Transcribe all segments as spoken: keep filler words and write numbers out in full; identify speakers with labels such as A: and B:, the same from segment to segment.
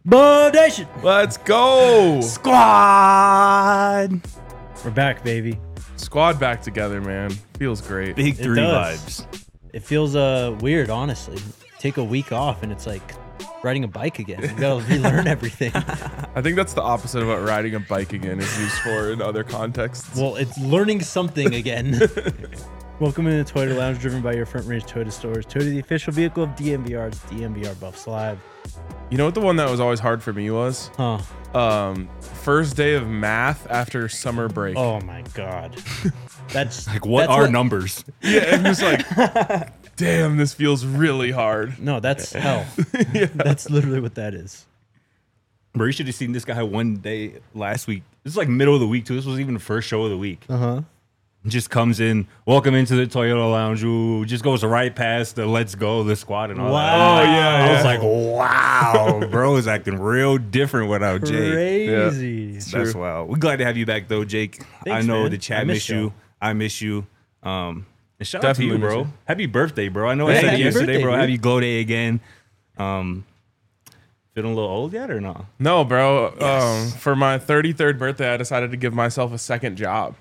A: Bodation
B: Let's go.
C: Squad.
A: We're back, baby.
B: Squad back together, man. Feels great.
C: Big
A: It
C: three
A: does.
C: vibes.
A: It feels uh weird, honestly. Take a week off and it's like riding a bike again. You gotta relearn everything.
B: I think that's the opposite of what riding a bike again is used for in other contexts.
A: Well, it's learning something again. Welcome into the Toyota Lounge, driven by your front range Toyota stores. Toyota, the official vehicle of D M V R. It's D M V R Buffs Live.
B: You know what the one that was always hard for me was?
A: Huh.
B: Um, first day of math after summer break.
A: Oh my God. That's
C: Like, what
A: that's
C: are numbers?
B: Yeah, it was like, damn, this feels really hard.
A: No, that's hell. That's literally what that is.
C: Bro, you should have seen this guy one day last week. This is like middle of the week, too. This was even the first show of the week.
A: Uh huh.
C: Just comes in, welcome into the Toyota Lounge. Ooh, just goes right past the Let's Go, the squad, and all
A: Wow.
C: that.
B: Oh, yeah,
C: I
B: yeah.
C: was like, wow, bro is acting real different without Jake.
A: Crazy.
B: True.
C: That's wild. We're glad to have you back, though, Jake. I
A: Thanks,
C: know
A: man.
C: the
A: I
C: chat
A: miss
C: miss
A: y'all.
C: you. I miss you. Um, and shout
B: Definitely
C: out to
B: miss
C: you, bro.
B: you.
C: Happy birthday, bro. I know I
A: Hey,
C: said
A: happy
C: it yesterday,
A: birthday,
C: bro.
A: dude.
C: Happy glow day again. Um, feeling a little old yet or not?
B: No, bro.
C: Yes.
B: Um, for my thirty-third birthday, I decided to give myself a second job.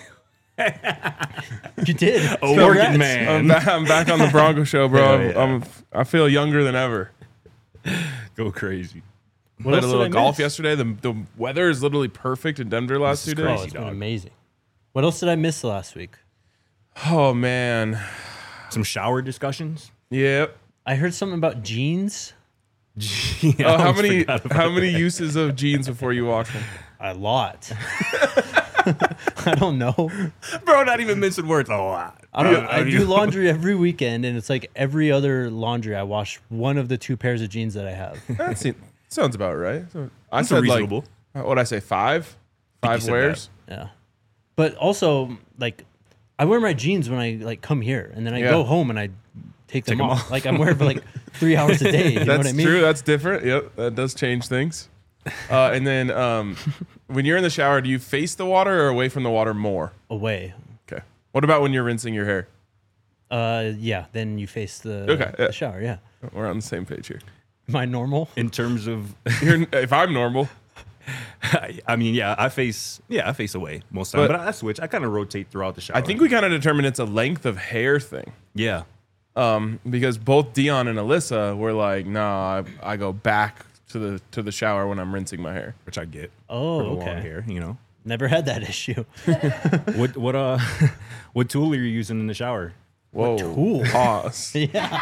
A: You did.
C: A
A: Congrats.
C: working man.
B: I'm, ba- I'm back on the Bronco show, bro.
C: Hell
B: I'm,
C: yeah.
B: I'm, I feel younger than ever.
C: Go crazy.
A: What
B: Played
A: else
B: a
A: did
B: little
A: I
B: golf
A: miss?
B: yesterday. The, the weather is literally perfect in Denver last
C: This
B: two
C: is
A: Oh,
B: days.
C: crazy.
A: it's been
C: dog.
A: amazing. What else did I miss last week?
B: Oh, man.
C: Some shower discussions.
B: Yep.
A: I heard something about jeans.
C: Yeah,
B: Oh,
C: I
B: how
C: almost
B: many
C: forgot about
B: how many uses of jeans before you wash them?
A: A lot. I don't know.
C: that. Bro, not even mincing words. A lot.
A: I don't.
C: Yeah,
A: I do
C: mean-
A: laundry every weekend, and it's like every other laundry. I wash one of the two pairs of jeans that I have.
B: That seems, sounds about right. So I
C: That's
B: said
C: reasonable.
B: like, what I say, five? Five
C: said
B: wears?
A: Yeah, but also like I wear my jeans when I like come here, and then I
B: Yeah.
A: go home and I take them,
C: Take 'em
A: off.
C: off.
A: Like I'm wearing for like three hours a day. You know
B: That's
A: what I mean?
B: true. That's different. Yep, that does change things. Uh, and then um, when you're in the shower, do you face the water or away from the water more?
A: Away.
B: Okay. What about when you're rinsing your hair?
A: Uh, yeah. Then you face the,
B: Okay, yeah.
A: the shower. Yeah.
B: We're on the same page here.
A: Am I normal?
C: In terms of,
B: You're, if I'm normal,
C: I mean, yeah, I face, yeah, I face away most of the time,
B: But-
C: but I switch. I kind of rotate throughout the shower.
B: I think we kind of determined it's a length of hair thing.
C: yeah.
B: Um, because both Dion and Alyssa were like, "Nah, I, I go back to the to the shower when I'm rinsing my hair."
C: Which I get.
A: Oh,
C: for the
A: okay.
C: long hair, you know.
A: Never had that issue.
C: What what uh, what tool are you using in the shower?
B: Whoa,
A: tool?
B: pause.
A: Yeah.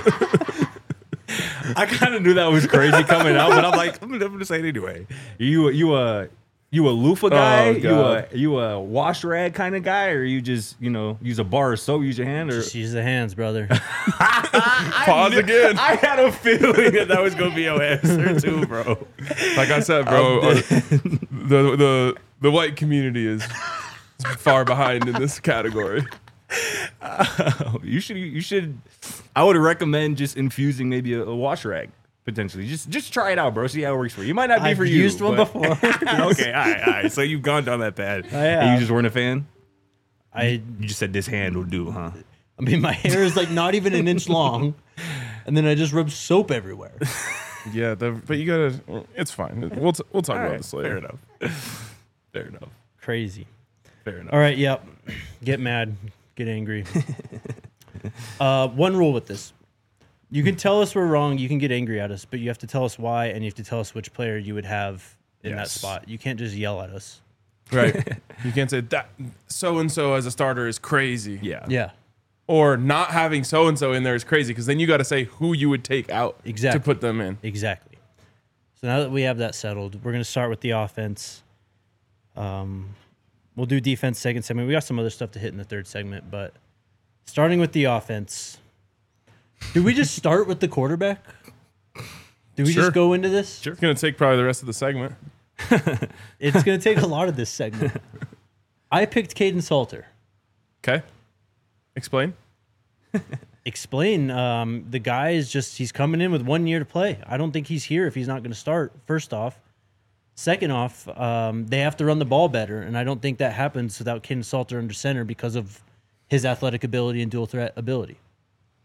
C: I kind of knew that was crazy coming out, but I'm like, I'm gonna, I'm gonna say it anyway. You you a you a loofah guy? you
B: God.
C: a you a wash rag kind of guy, or you just you know use a bar of soap, use your hand, or
A: Just use the hands, brother.
B: Pause again.
C: I had a feeling that that was gonna be your answer too, bro.
B: Like I said, bro, uh, the the the white community is far behind in this category.
C: You should you should. I would recommend just infusing maybe a, a wash rag potentially. Just just try it out, bro. See how it works for you. It might not be
A: I've
C: for you.
A: used one
C: but-
A: before.
C: Okay, all right, all right. So you've gone down that path.
A: I
C: And
A: have.
C: you just weren't a fan.
A: I
C: You just said this hand will do, huh?
A: I mean, my hair is like not even an inch long, and then I just rub soap everywhere.
B: Yeah, the, but you gotta. It's fine. We'll t- we'll talk
C: All
B: about
C: right,
B: this later.
C: fair enough. Fair enough.
A: Crazy.
C: Fair enough.
A: All right, yep. Get mad, get angry. uh, one rule with this. You can tell us we're wrong, you can get angry at us, but you have to tell us why, and you have to tell us which player you would have in that
C: Yes.
A: spot. You can't just yell at us.
B: Right. You can't say that so and so as a starter is crazy.
C: Yeah.
A: Yeah.
B: Or not having so and so in there is crazy because then you got to say who you would take out
A: Exactly.
B: to put them in.
A: Exactly. So now that we have that settled, we're going to start with the offense. Um, we'll do defense second segment. We got some other stuff to hit in the third segment, but starting with the offense, do we just start with the quarterback? Do we
B: Sure.
A: just go into this?
B: It's going to take probably the rest of the segment.
A: It's going to take a lot of this segment. I picked Caden Salter.
B: Okay. Explain.
A: Explain. Um, the guy is just, he's coming in with one year to play. I don't think he's here if he's not going to start, first off. Second off, um, they have to run the ball better, and I don't think that happens without Caden Salter under center because of his athletic ability and dual threat ability.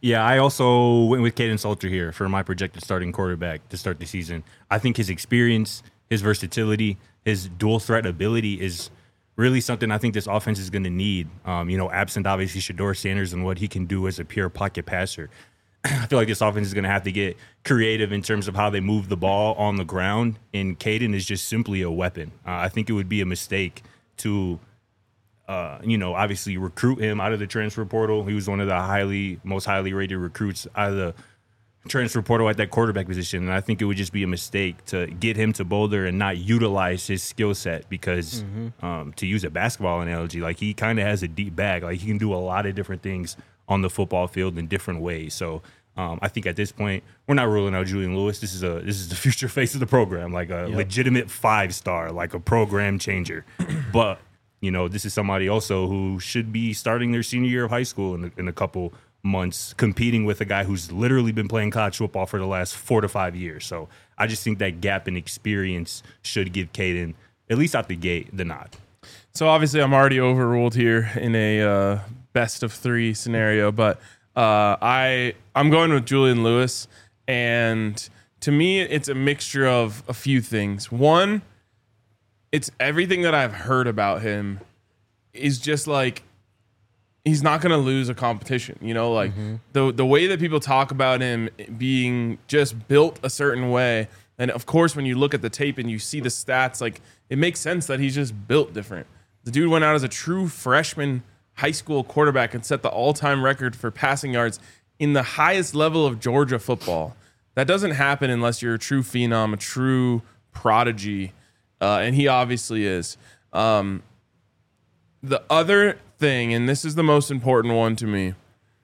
C: Yeah, I also went with Caden Salter here for my projected starting quarterback to start the season. I think his experience, his versatility, his dual threat ability is really something I think this offense is going to need. Um, you know, absent obviously Shedeur Sanders and what he can do as a pure pocket passer. I feel like this offense is going to have to get creative in terms of how they move the ball on the ground, and Caden is just simply a weapon. Uh, I think it would be a mistake to Uh, you know, obviously recruit him out of the transfer portal. He was one of the highly, most highly rated recruits out of the transfer portal at that quarterback position. And I think it would just be a mistake to get him to Boulder and not utilize his skill set because, mm-hmm. um, to use a basketball analogy, like he kind of has a deep bag. Like he can do a lot of different things on the football field in different ways. So um, I think at this point, we're not ruling out Julian Lewis. This is a this is the future face of the program, like a yep. legitimate five star, like a program changer. But you know, this is somebody also who should be starting their senior year of high school in a, in a couple months, competing with a guy who's literally been playing college football for the last four to five years. So I just think that gap in experience should give Caden, at least out the gate, the nod.
B: So obviously I'm already overruled here in a uh, best of three scenario, but uh, I, I'm going with Julian Lewis. And to me, it's a mixture of a few things. One, it's everything that I've heard about him is just like he's not going to lose a competition. You know, like mm-hmm. the the way that people talk about him being just built a certain way. And of course, when you look at the tape and you see the stats, like it makes sense that he's just built different. The dude went out as a true freshman high school quarterback and set the all-time record for passing yards in the highest level of Georgia football. That doesn't happen unless you're a true phenom, a true prodigy. Uh, and he obviously is. Um, the other thing, and this is the most important one to me,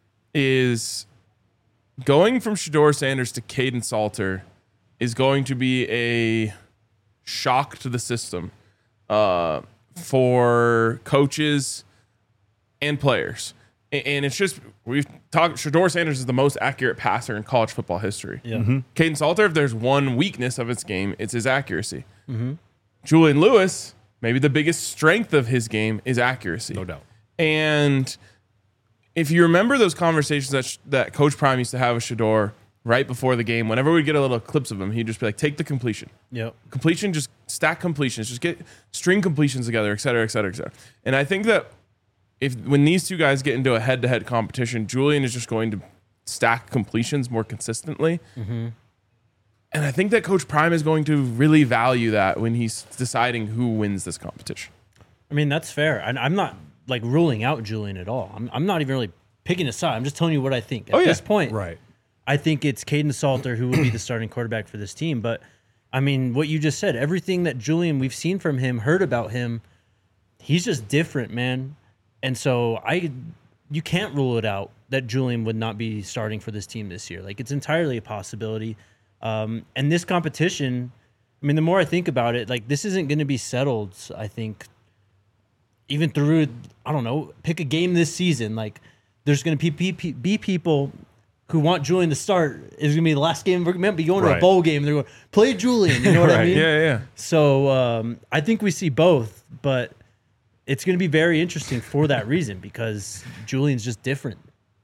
B: is going from Shedeur Sanders to Caden Salter is going to be a shock to the system uh, for coaches and players. And it's just, we've talked, Shedeur Sanders is the most accurate passer in college football history.
A: Yeah. Mm-hmm.
B: Caden Salter, if there's one weakness of his game, it's his accuracy. Mm-hmm. Julian Lewis, maybe the biggest strength of his game is accuracy.
C: No doubt.
B: And if you remember those conversations that sh- that Coach Prime used to have with Shedeur right before the game, whenever we'd get a little clips of him, he'd just be like, take the completion.
A: Yep.
B: Completion, just stack completions, just get string completions together, et cetera, et cetera, et cetera. And I think that if when these two guys get into a head-to-head competition, Julian is just going to stack completions more consistently. Mm-hmm. And I think that Coach Prime is going to really value that when he's deciding who wins this competition.
A: I mean, that's fair. And I'm not like ruling out Julian at all. I'm, I'm not even really picking a side. I'm just telling you what I think. At
B: oh, yeah.
A: this point,
C: right.
A: I think it's Caden Salter who will be the starting quarterback for this team. But, I mean, what you just said, everything that Julian, we've seen from him, heard about him, he's just different, man. And so I, you can't rule it out that Julian would not be starting for this team this year. Like, it's entirely a possibility. Um, and this competition, I mean, the more I think about it, like this isn't going to be settled, I think, even through, I don't know, pick a game this season. Like there's going to be, be, be people who want Julian to start. It's going to be the last game. We're going to be going to
C: right.
A: a bowl game. And they're going, play Julian. You know what
C: right.
A: I mean?
B: Yeah, yeah.
A: So um, I think we see both, but it's going to be very interesting for that reason because Julian's just different.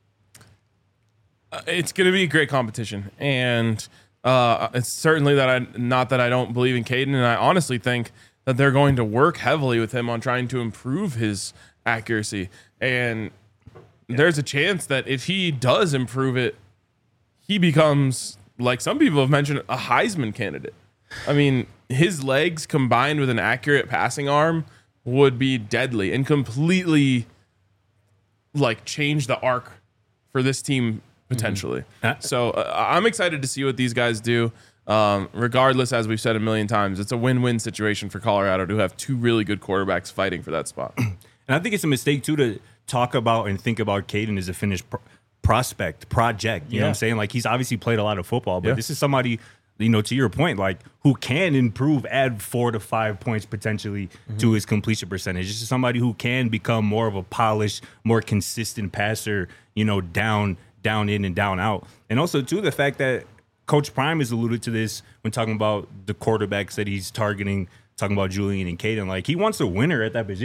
B: Uh, it's going to be a great competition. And Uh, it's certainly that I, not that I don't believe in Caden, and I honestly think that they're going to work heavily with him on trying to improve his accuracy. And yeah. there's a chance that if he does improve it, he becomes, like some people have mentioned, a Heisman candidate. I mean, his legs combined with an accurate passing arm would be deadly and completely like change the arc for this team potentially. Mm-hmm. So uh, I'm excited to see what these guys do. Um, regardless, as we've said a million times, it's a win-win situation for Colorado to have two really good quarterbacks fighting for that spot.
C: And I think it's a mistake, too, to talk about and think about Caden as a finished pro- prospect, project. You yeah. know what I'm saying? Like, he's obviously played a lot of football, but yeah. this is somebody, you know, to your point, like, who can improve, add four to five points potentially mm-hmm. to his completion percentage. This is somebody who can become more of a polished, more consistent passer, you know, down down in and down out. And also, too, the fact that Coach Prime has alluded to this when talking about the quarterbacks that he's targeting, talking about Julian and Caden. Like, he wants a winner at that position.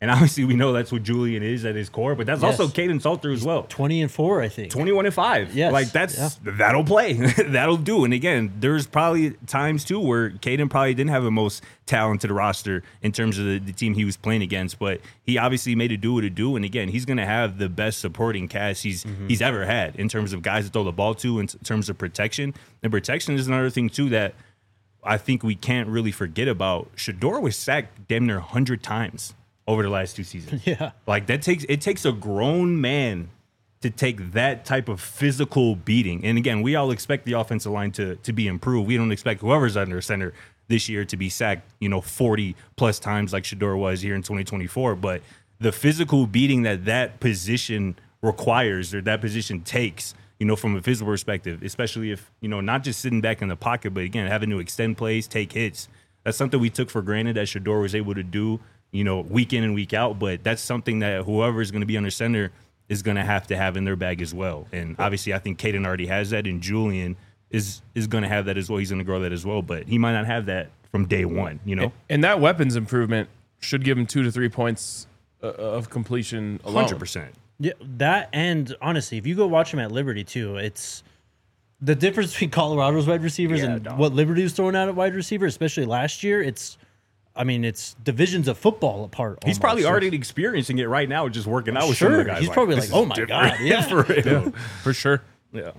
C: And obviously, we know that's what Julian is at his core, but that's
A: Yes.
C: also Caden Salter as well.
A: twenty and four, I think.
C: twenty-one and five.
A: Yes.
C: Like that's
A: Yeah.
C: that'll play. That'll do. And again, there's probably times too where Caden probably didn't have the most talented roster in terms of the, the team he was playing against, but he obviously made it do what it do. And again, he's gonna have the best supporting cast he's mm-hmm. he's ever had in terms of guys to throw the ball to, in terms of protection. And protection is another thing too that I think we can't really forget about. Shedeur was sacked damn near one hundred times over the last two seasons.
A: Yeah.
C: Like that takes it takes a grown man to take that type of physical beating. And again, we all expect the offensive line to to be improved. We don't expect whoever's under center this year to be sacked, you know, forty plus times like Shedeur was here in twenty twenty-four. But the physical beating that that position requires or that position takes, you know, from a physical perspective, especially if, you know, not just sitting back in the pocket, but again, having to extend plays, take hits. That's something we took for granted that Shedeur was able to do, you know, week in and week out. But that's something that whoever is going to be under center is going to have to have in their bag as well. And obviously, I think Caden already has that, and Julian is is going to have that as well. He's going to grow that as well, but he might not have that from day one, you know?
B: And that weapons improvement should give him two to three points uh, of completion alone.
C: one hundred percent.
A: Yeah, that, and honestly, if you go watch him at Liberty too, it's the difference between Colorado's wide receivers
C: Yeah,
A: and
C: dog.
A: what Liberty was throwing out at wide receiver, especially last year. It's, I mean, it's divisions of football apart.
C: He's
A: almost.
C: probably
A: So-
C: already experiencing it right now, just working out with some of
A: Sure,
C: the guys.
A: he's probably
C: "This
A: like,
C: is
A: "Oh my
C: different."
A: God, yeah.
C: For real.
B: For sure.
C: Yeah.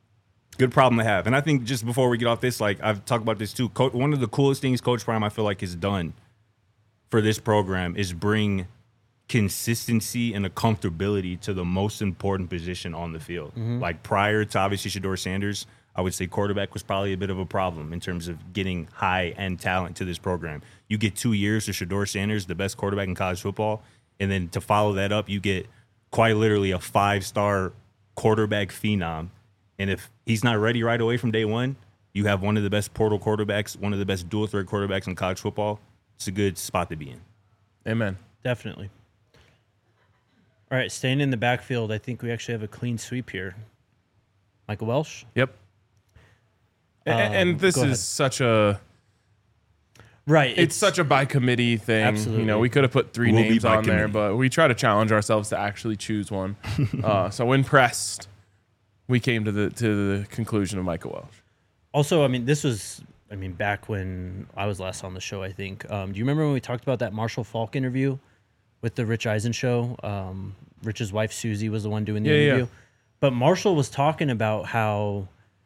C: Good problem to have. And I think just before we get off this, like I've talked about this too. Co- one of the coolest things Coach Prime I feel like has done for this program is bring consistency and a comfortability to the most important position on the field. Like prior to obviously Shedeur Sanders, I would say quarterback was probably a bit of a problem in terms of getting high end talent to this program. You get two years of Shedeur Sanders, the best quarterback in college football, and then to follow that up, you get quite literally a five star quarterback phenom. And if he's not ready right away from day one, you have one of the best portal quarterbacks, one of the best dual threat quarterbacks in college football. It's a good spot to be in.
B: Amen.
A: Definitely. All right, staying in the backfield, I think we actually have a clean sweep here. Michael Welsh.
B: Yep. A- and
A: Um,
B: this
A: go
B: is
A: ahead.
B: such a
A: Right.
B: it's such a by committee thing.
A: Absolutely.
B: You know, we could have put three
C: We'll be
B: names
C: by
B: on there,
C: committee.
B: but we try to challenge ourselves to actually choose one. uh, so when pressed, we came to the to the conclusion of Michael Welsh.
A: Also, I mean, this was, I mean, back when I was last on the show, I think. Um, do you remember when we talked about that Marshall Falk interview with the Rich Eisen show? Um, Rich's wife, Susie, was the one doing the
B: Yeah, yeah.
A: interview. But Marshall was talking about how,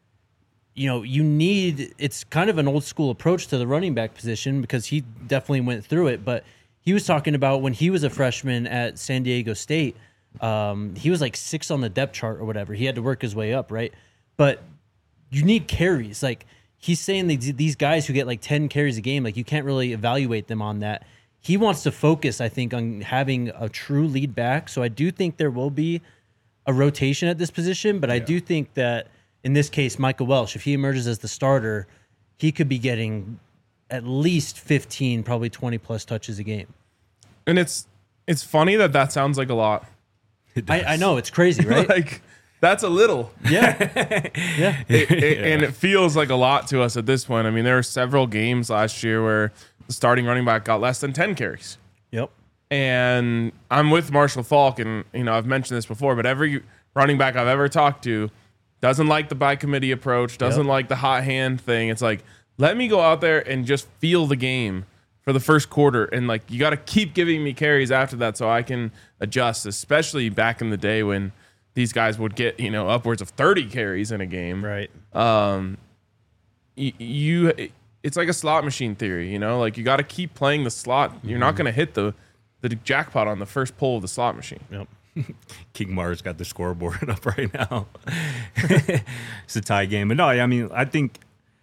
A: you know, you need, it's kind of an old school approach to the running back position because he definitely went through it. But he was talking about when he was a freshman at San Diego State, um, he was like six on the depth chart or whatever. He had to work his way up, right? But you need carries. Like he's saying these, these guys who get like ten carries a game, like you can't really evaluate them on that. He wants to focus, I think, on having a true lead back. So I do think there will be a rotation at this position, but I do think that in this case, Michael Welsh, if he emerges as the starter, he could be getting at least fifteen, probably twenty plus touches a game.
B: And it's it's funny that that sounds like a lot.
A: I, I know, it's crazy, right?
B: Like that's a little.
A: yeah. Yeah.
B: It- it- and it feels like a lot to us at this point. I mean, there were several games last year where the starting running back got less than ten carries.
A: Yep.
B: And I'm with Marshall Falk, and you know I've mentioned this before, but every running back I've ever talked to doesn't like the by committee approach, doesn't
A: Yep.
B: like the hot hand thing. It's like, let me go out there and just feel the game for the first quarter, and like you got to keep giving me carries after that so I can adjust. Especially back in the day when these guys would get you know upwards of thirty carries in a game.
A: Right.
B: Um, y- you, it's like a slot machine theory. You know, like you got to keep playing the slot. You're not going to hit the the jackpot on the first pull of the slot machine.
A: Yep.
C: King Mars got the scoreboard up right now. It's a tie game. But no, I mean, I think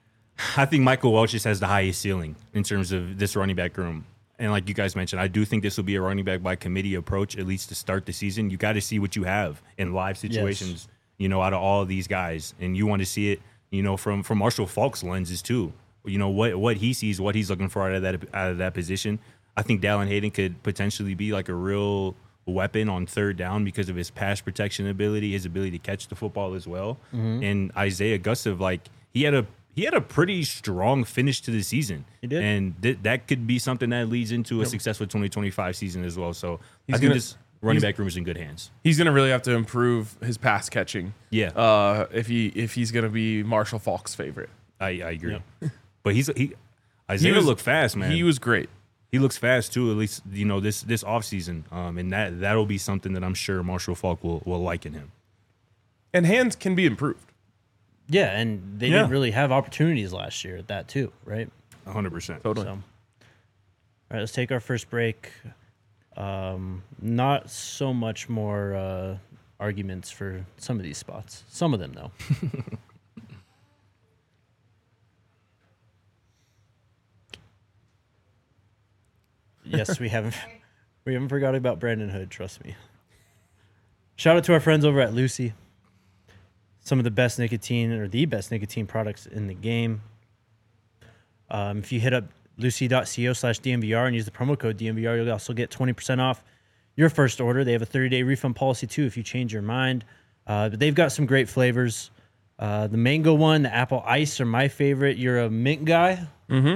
C: I think Michael Welch just has the highest ceiling in terms of this running back room. And like you guys mentioned, I do think this will be a running back by committee approach, at least to start the season. You got to see what you have in live situations, you know, out of all of these guys. And you want to see it, you know, from, from Marshall Falk's lenses too. You know, what what he sees, what he's looking for out of that out of that position. I think Dallin Hayden could potentially be like a real weapon on third down because of his pass protection ability, his ability to catch the football as well. And Isaiah Gustav, like he had a he had a pretty strong finish to the season.
A: He did.
C: And th- that could be something that leads into a
B: Yep.
C: successful twenty twenty-five season as well. So
B: He's
C: I think
B: gonna-
C: this running
B: he's-
C: back room is in good hands.
B: He's gonna really have to improve his pass catching.
C: Yeah,
B: Uh, if he if he's gonna be Marshall Falk's favorite.
C: I, I agree. But he's he
B: He
C: Isaiah
B: was-
C: looked fast, man.
B: He was great.
C: He looks fast too. At least you know this this offseason. Um, and that that'll be something that I'm sure Marshall Falk will will like in him.
B: And hands can be improved.
A: Yeah, and they
C: Yeah.
A: didn't really have opportunities last year at that too, right?
C: one hundred percent.
B: Totally.
A: So, all right, let's take our first break. Um, not so much more uh, arguments for some of these spots. Some of them, though. Yes, we haven't we haven't forgot about Brandon Hood. Trust me. Shout out to our friends over at Lucy. Some of the best nicotine or the best nicotine products in the game. Um, if you hit up lucy.co slash DMVR and use the promo code D M V R, you'll also get twenty percent off your first order. They have a thirty-day refund policy, too, if you change your mind. Uh, but they've got some great flavors. Uh, the mango one, the apple ice are my favorite. You're a mint guy.
B: Mm-hmm.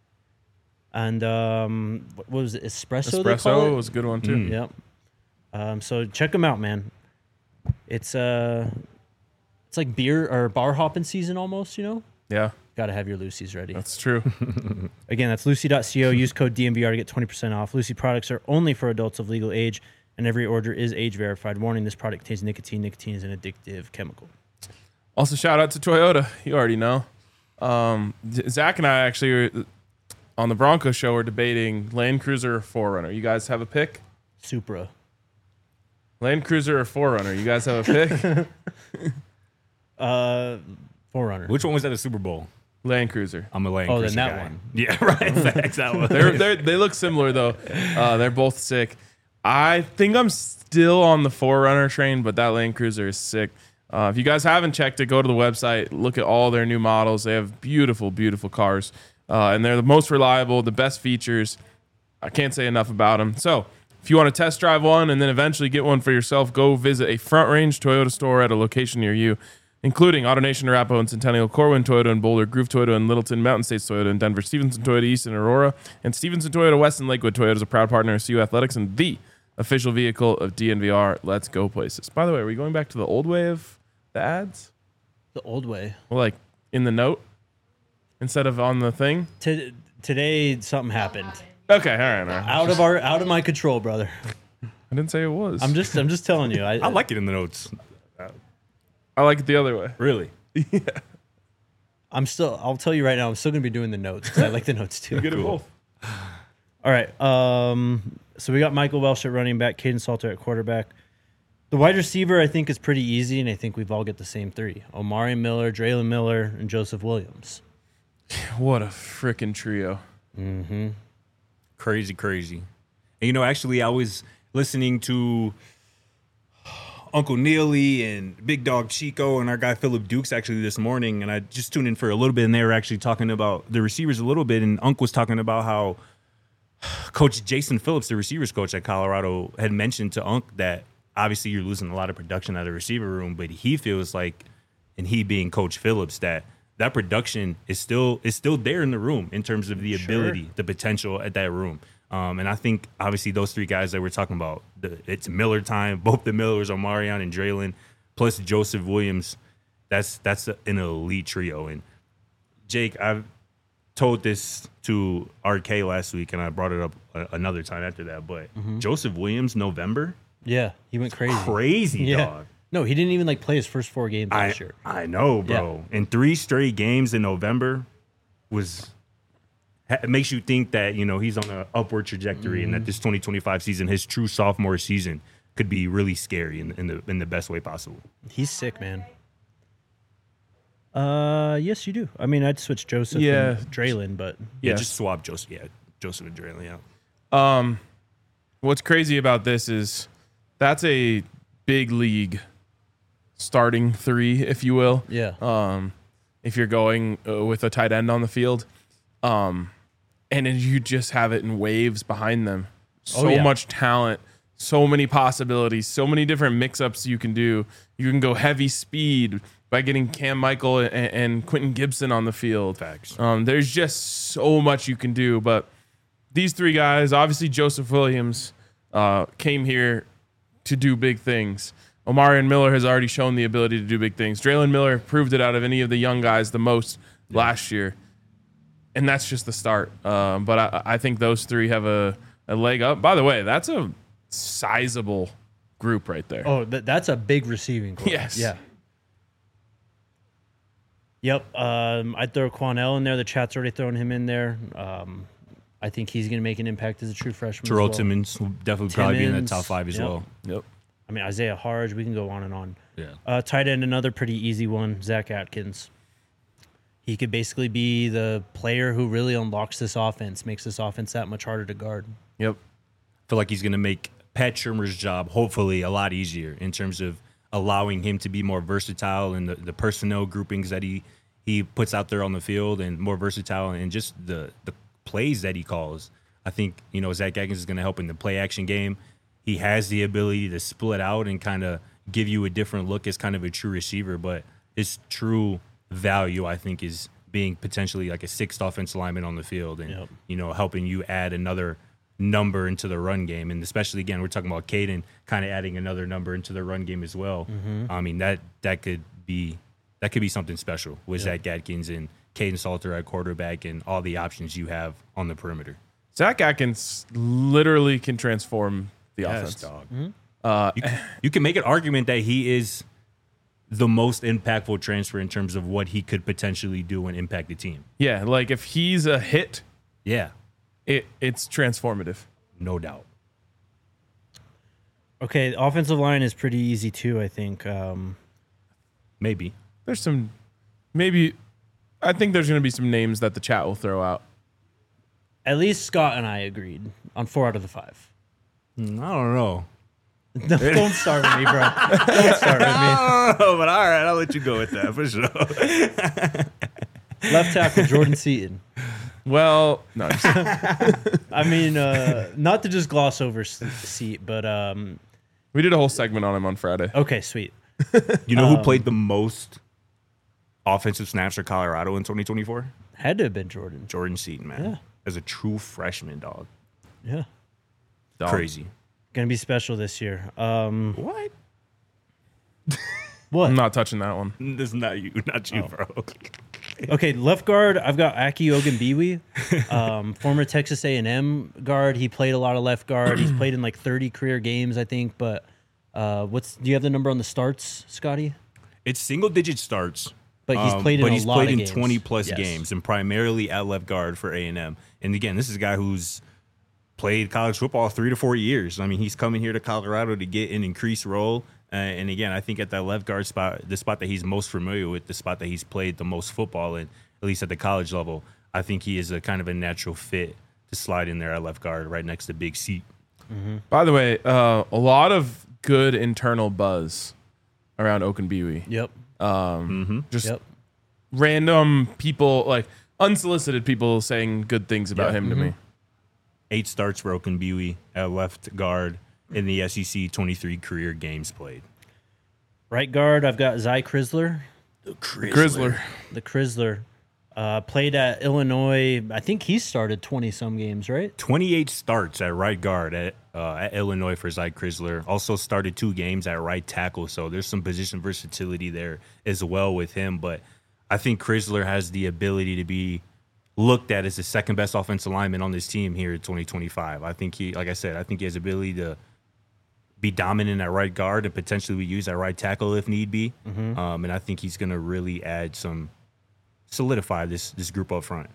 A: And um, what was it? Espresso, they call
B: Espresso
A: it?
B: was a good one too.
C: Mm.
A: Yep. Um, so check them out, man. It's uh, it's like beer or bar hopping season almost, you know?
B: Yeah,
A: Got to have your Lucy's ready.
B: that's true.
A: Again, that's lucy.co. Use code D M V R to get twenty percent off. Lucy products are only for adults of legal age, and every order is age verified. Warning, this product contains nicotine. Nicotine is an addictive chemical.
B: Also, shout out to Toyota. You already know. Um, Z- Zach and I actually were, on the Bronco show were debating Land Cruiser or four runner. You guys have a pick?
A: Supra.
B: Land Cruiser or four runner. You guys have a pick?
A: Uh, Forerunner.
C: Which one was at the Super Bowl?
B: Land Cruiser.
C: I'm a Land
A: Oh, then
C: Cruiser
A: that
C: guy.
A: one.
C: Yeah, right. Facts. That one.
B: They're, they're, they look similar though. Uh, they're both sick. I think I'm still on the four runner train, but that Land Cruiser is sick. Uh, if you guys haven't checked it, go to the website, look at all their new models. They have beautiful, beautiful cars, uh, and they're the most reliable, the best features. I can't say enough about them. So if you want to test drive one and then eventually get one for yourself, go visit a Front Range Toyota store at a location near you, including AutoNation, Arapahoe, and Centennial, Corwin Toyota and Boulder, Groove Toyota and Littleton, Mountain States Toyota and Denver, Stevenson Toyota East and Aurora, and Stevenson Toyota West and Lakewood. Toyota is a proud partner of C U Athletics and the official vehicle of D N V R. Let's go places. By the way, are we going back to the old way of the ads?
A: The old way.
B: Well, like in the note instead of on the thing?
A: T- today, something happened.
B: Okay, all right. All right.
A: Out of our, out of my control, brother.
B: I didn't say it was.
A: I'm just, I'm just telling you. I,
C: I like it in the notes.
B: I like it the other way.
C: Really?
A: I'm still. I'll tell you right now. I'm still gonna be doing the notes because I like the notes too.
B: Good at
C: Cool.
B: both.
A: All right. Um. So we got Michael Welsh at running back, Caden Salter at quarterback. The wide receiver, I think, is pretty easy, and I think we've all got the same three: Omari Miller, Draylon Miller, and Joseph Williams.
B: What a freaking trio.
A: Mm-hmm.
C: Crazy, crazy. And you know, actually, I was listening to Uncle Neely and Big Dog Chico and our guy Philip Dukes actually this morning, and I just tuned in for a little bit, and they were actually talking about the receivers a little bit, and Unc was talking about how Coach Jason Phillips, the receivers coach at Colorado, had mentioned to Unc that obviously you're losing a lot of production out of the receiver room, but he feels like, and he being Coach Phillips, that that production is still is still there in the room in terms of the
A: Sure.
C: ability, the potential at that room. Um, and I think obviously those three guys that we're talking about, the, it's Miller time. Both the Millers, Omarion and Draylon, plus Joseph Williams. That's that's a, an elite trio. And Jake, I've told this to R K last week, and I brought it up a, another time after that. But Joseph Williams, November,
A: Yeah, he went crazy.
C: crazy
A: Yeah.
C: dog.
A: No, he didn't even like play his first four games
C: I,
A: last year.
C: I know, bro. And three straight games in November was ha- it makes you think that, you know, he's on an upward trajectory and that this twenty twenty-five season, his true sophomore season, could be really scary in, in the in the best way possible.
A: He's sick, man. Uh, yes, you do. I mean, I'd switch Joseph
B: Yeah.
A: and Draylon, but
C: Yeah,
B: Yes.
C: just swap Joseph. Yeah, Joseph and Draylon. Yeah.
B: Um, what's crazy about this is that's a big league starting three, if you will.
A: yeah,
B: Um, if you're going uh, with a tight end on the field, um, and then you just have it in waves behind them. So
A: Oh, yeah.
B: much talent, so many possibilities, so many different mix-ups you can do. You can go heavy speed, by getting Cam Michael and, and Quentin Gibson on the field.
C: Facts.
B: Um, there's just so much you can do. But these three guys, obviously Joseph Williams uh, came here to do big things. Omarion Miller has already shown the ability to do big things. Draylen Miller proved it out of any of the young guys the most yeah. last year. And that's just the start. Um, but I, I think those three have a, a leg up. By the way, that's a sizable group right there.
A: Oh, th- that's a big receiving core.
B: Yes.
A: Yeah. Yep. Um, I'd throw Quanell in there. The chat's already throwing him in there. Um, I think he's going to make an impact as a true freshman.
C: Terrell
A: as well.
C: Timmons will definitely probably be in the
A: Timmons,
C: top five as
A: yep.
C: well.
B: Yep.
A: I mean, Isaiah Harge, we can go on and on.
C: Yeah.
A: Uh, tight end, another pretty easy one, Zach Atkins. He could basically be the player who really unlocks this offense, makes this offense that much harder to guard.
B: Yep.
C: I feel like he's going to make Pat Shurmur's job hopefully a lot easier in terms of allowing him to be more versatile in the, the personnel groupings that he, he puts out there on the field, and more versatile and just the, the plays that he calls. I think, you know, Zach Atkins is going to help in the play action game. He has the ability to split out and kind of give you a different look as kind of a true receiver, but his true value, I think, is being potentially like a sixth offensive lineman on the field and,
A: yep.
C: you know, helping you add another number into the run game. And especially, again, we're talking about Caden kind of adding another number into the run game as well. Mm-hmm. I mean, that that could be that could be something special with yep. Zach Atkins and Caden Salter at quarterback and all the options you have on the perimeter.
B: Zach Atkins literally can transform the
C: yes,
B: offense.
C: Dog.
B: Mm-hmm. Uh,
C: you, can, you can make an argument that he is the most impactful transfer in terms of what he could potentially do and impact the team.
B: Yeah, like if he's a hit,
C: yeah,
B: it it's transformative.
C: No doubt.
A: Okay, the offensive line is pretty easy too, I think. Um,
C: maybe.
B: There's some, maybe, I think there's going to be some names that the chat will throw out.
A: At least Scott and I agreed on four out of the five.
C: I don't know.
A: No, don't start with me, bro. Don't start with me.
C: I don't know, but all right, I'll let you go with that for sure.
A: Left tackle, Jordan Seaton.
B: Well, no.
A: I mean, uh, not to just gloss over Seat, but um,
B: we did a whole segment on him on Friday.
A: Okay, sweet.
C: You know who
A: um,
C: played the most offensive snaps for Colorado in twenty twenty-four?
A: Had to have been Jordan.
C: Jordan Seaton, man.
A: Yeah.
C: As a true freshman, dog.
A: Yeah.
B: Dog.
C: Crazy.
A: Gonna be special this year. Um,
C: what?
A: What?
B: I'm not touching that one.
C: This is not you, not you, oh. bro.
A: Okay, left guard. I've got Aki Ogunbiyi, um, former Texas A and M guard. He played a lot of left guard. He's played in like thirty career games, I think. But uh, what's? Do you have the number on the starts, Scotty?
C: It's single digit starts.
A: But he's
C: um,
A: played in
C: but
A: a
C: he's
A: lot
C: played
A: of
C: in
A: games.
C: twenty plus
A: Yes.
C: games, and primarily at left guard for A and M. And again, this is a guy who's played college football three to four years. I mean, he's coming here to Colorado to get an increased role. Uh, and again, I think at that left guard spot, the spot that he's most familiar with, the spot that he's played the most football in, at least at the college level, I think he is a kind of a natural fit to slide in there at left guard right next to Big C.
B: Mm-hmm. By the way, uh, a lot of good internal buzz around Ogunbiyi.
A: Yep.
B: Um,
C: mm-hmm.
B: Just
A: yep.
B: random people, like unsolicited people saying good things about
C: yeah.
B: him
A: mm-hmm.
B: to me.
C: Eight starts for Ogunbiyi at left guard in the S E C, twenty-three career games played.
A: Right guard, I've got Zy Chrysler.
C: The
B: Chrysler.
A: The Chrysler. Uh, played at Illinois. I think he started twenty-some games, right?
C: twenty-eight starts at right guard at uh, at Illinois for Zy Chrysler. Also started two games at right tackle, so there's some position versatility there as well with him. But I think Chrysler has the ability to be looked at as the second best offensive lineman on this team here in twenty twenty-five. I think he, like I said, I think he has the ability to be dominant at right guard and potentially we use at right tackle if need be. Mm-hmm. Um, and I think he's going to really add some, solidify this this group up front.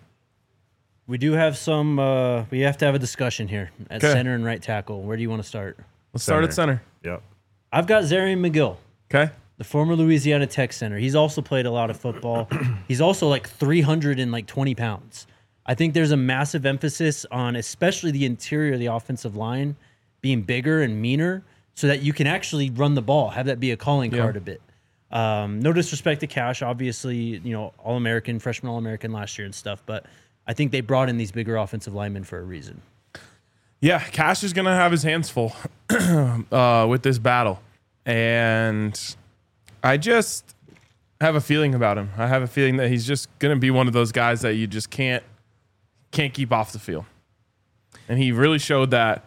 A: We do have some, uh, we have to have a discussion here at
B: Kay.
A: center and right tackle. Where do you want to start?
B: Let's start at center.
C: Yep.
A: I've got Zarian McGill.
B: Okay.
A: The former Louisiana Tech center. He's also played a lot of football. He's also like three hundred twenty pounds. I think there's a massive emphasis on especially the interior of the offensive line being bigger and meaner so that you can actually run the ball, have that be a calling
B: yeah.
A: card a bit. Um, no disrespect to Cash, obviously, you know, All-American, freshman All-American last year and stuff, but I think they brought in these bigger offensive linemen for a reason.
B: Yeah, Cash is going to have his hands full uh, with this battle. And I just, have a feeling about him. I have a feeling that he's just going to be one of those guys that you just can't can't keep off the field. And he really showed that.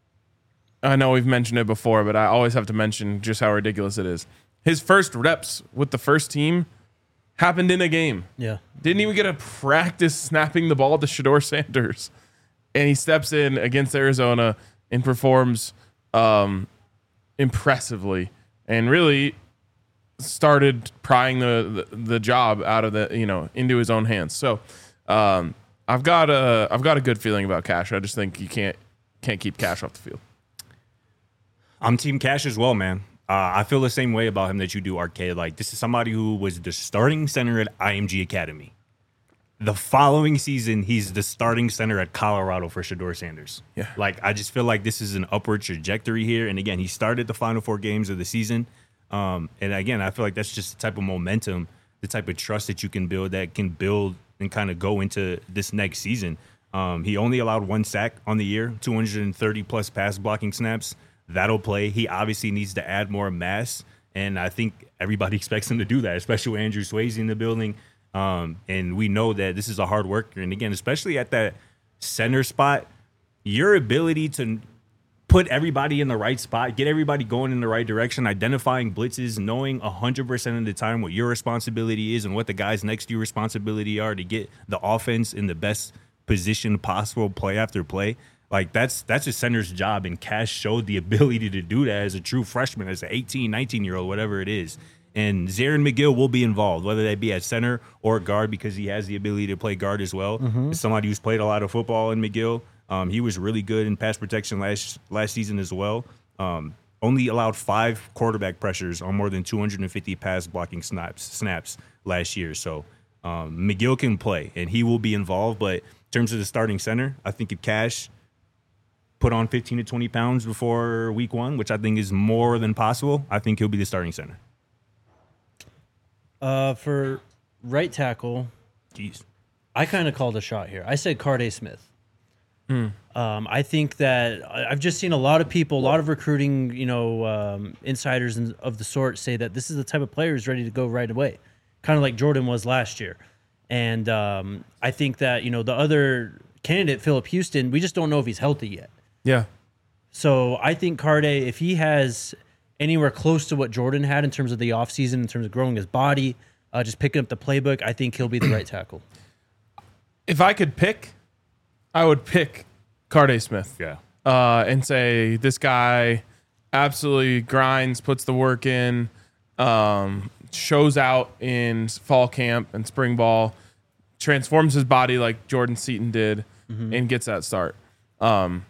B: I know we've mentioned it before, but I always have to mention just how ridiculous it is. His first reps with the first team happened in a game.
A: Yeah.
B: Didn't even get a practice snapping the ball to Shedeur Sanders. And he steps in against Arizona and performs um, impressively and really started prying the, the the job out of the, you know, into his own hands. So um, I've got a I've got a good feeling about Cash. I just think you can't can't keep Cash off the field.
C: I'm Team Cash as well, man. Uh, I feel the same way about him that you do, Arcade. Like, this is somebody who was the starting center at I M G Academy. The following season, he's the starting center at Colorado for Shedeur Sanders.
B: Yeah.
C: Like, I just feel like this is an upward trajectory here. And again, he started the final four games of the season. Um, and again, I feel like that's just the type of momentum, the type of trust that you can build that can build and kind of go into this next season. Um, he only allowed one sack on the year, two hundred thirty plus pass blocking snaps. That'll play. He obviously needs to add more mass, and I think everybody expects him to do that, especially with Andrew Swayze in the building. Um, and we know that this is a hard worker. And again, especially at that center spot, your ability to put everybody in the right spot, get everybody going in the right direction, identifying blitzes, knowing one hundred percent of the time what your responsibility is and what the guys next to your responsibility are to get the offense in the best position possible, play after play. Like, that's that's a center's job, and Cash showed the ability to do that as a true freshman, as an eighteen, nineteen-year-old, whatever it is. And Zarin McGill will be involved, whether that be at center or guard, because he has the ability to play guard as well. Mm-hmm. As somebody who's played a lot of football in McGill, um, he was really good in pass protection last last season as well. Um, only allowed five quarterback pressures on more than two hundred fifty pass blocking snaps snaps last year. So um, McGill can play, and he will be involved. But in terms of the starting center, I think if Cash put on fifteen to twenty pounds before week one, which I think is more than possible, I think he'll be the starting center.
A: Uh, for right tackle,
C: Jeez.
A: I kind of called a shot here. I said Carday Smith. Mm. Um, I think that I've just seen a lot of people, a lot of recruiting, you know, um, insiders and of the sort say that this is the type of player who's ready to go right away, kind of like Jordan was last year. And um, I think that, you know, the other candidate, Phillip Houston, we just don't know if he's healthy yet.
B: Yeah.
A: So I think Carday, if he has anywhere close to what Jordan had in terms of the offseason, in terms of growing his body, uh, just picking up the playbook, I think he'll be the right tackle.
B: If I could pick, I would pick Carday Smith.
C: Yeah.
B: Uh, and say this guy absolutely grinds, puts the work in, um, shows out in fall camp and spring ball, transforms his body like Jordan Seaton did, mm-hmm. and gets that start. Um,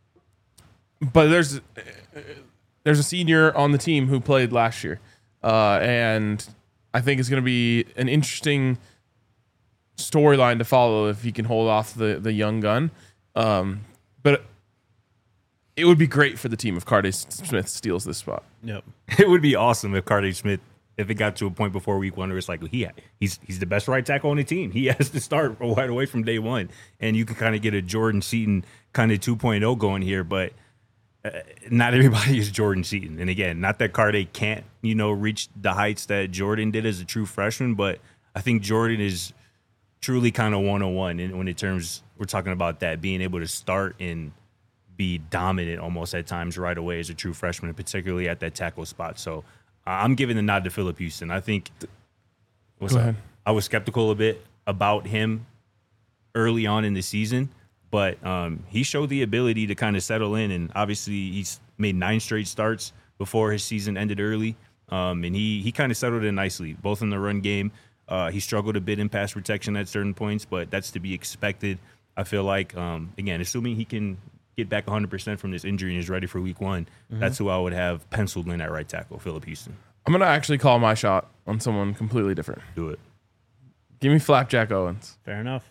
B: but there's there's a senior on the team who played last year, uh, and I think it's going to be an interesting storyline to follow if he can hold off the the young gun. Um, but it would be great for the team if Carday Smith steals this spot.
A: Yep.
C: It would be awesome if Carday Smith, if it got to a point before week one where it's like he he's he's the best right tackle on the team. He has to start right away from day one, and you can kind of get a Jordan Seaton kind of two point oh going here, but uh, not everybody is Jordan Seaton. And again, not that Carday can't, you know, reach the heights that Jordan did as a true freshman, but I think Jordan is truly kind of one oh one in, when it terms we're talking about that, being able to start and be dominant almost at times right away as a true freshman, particularly at that tackle spot. So uh, I'm giving the nod to Phillip Houston. I think what's
B: Go
C: up?
B: ahead.
C: I was skeptical a bit about him early on in the season, but um, he showed the ability to kind of settle in, and obviously he's made nine straight starts before his season ended early, um, and he he kind of settled in nicely, both in the run game. Uh, he struggled a bit in pass protection at certain points, but that's to be expected. I feel like, um, again, assuming he can get back one hundred percent from this injury and is ready for week one, mm-hmm. that's who I would have penciled in at right tackle, Phillip Houston.
B: I'm going to actually call my shot on someone completely different.
C: Do it.
B: Give me Flapjack Owens.
A: Fair enough.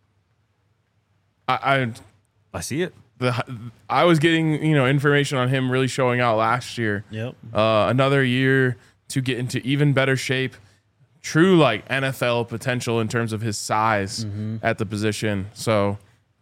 B: I, I
C: I see it.
B: The, I was getting, you know, information on him really showing out last year.
A: Yep.
B: Uh, another year to get into even better shape. True, like N F L potential in terms of his size mm-hmm. at the position. So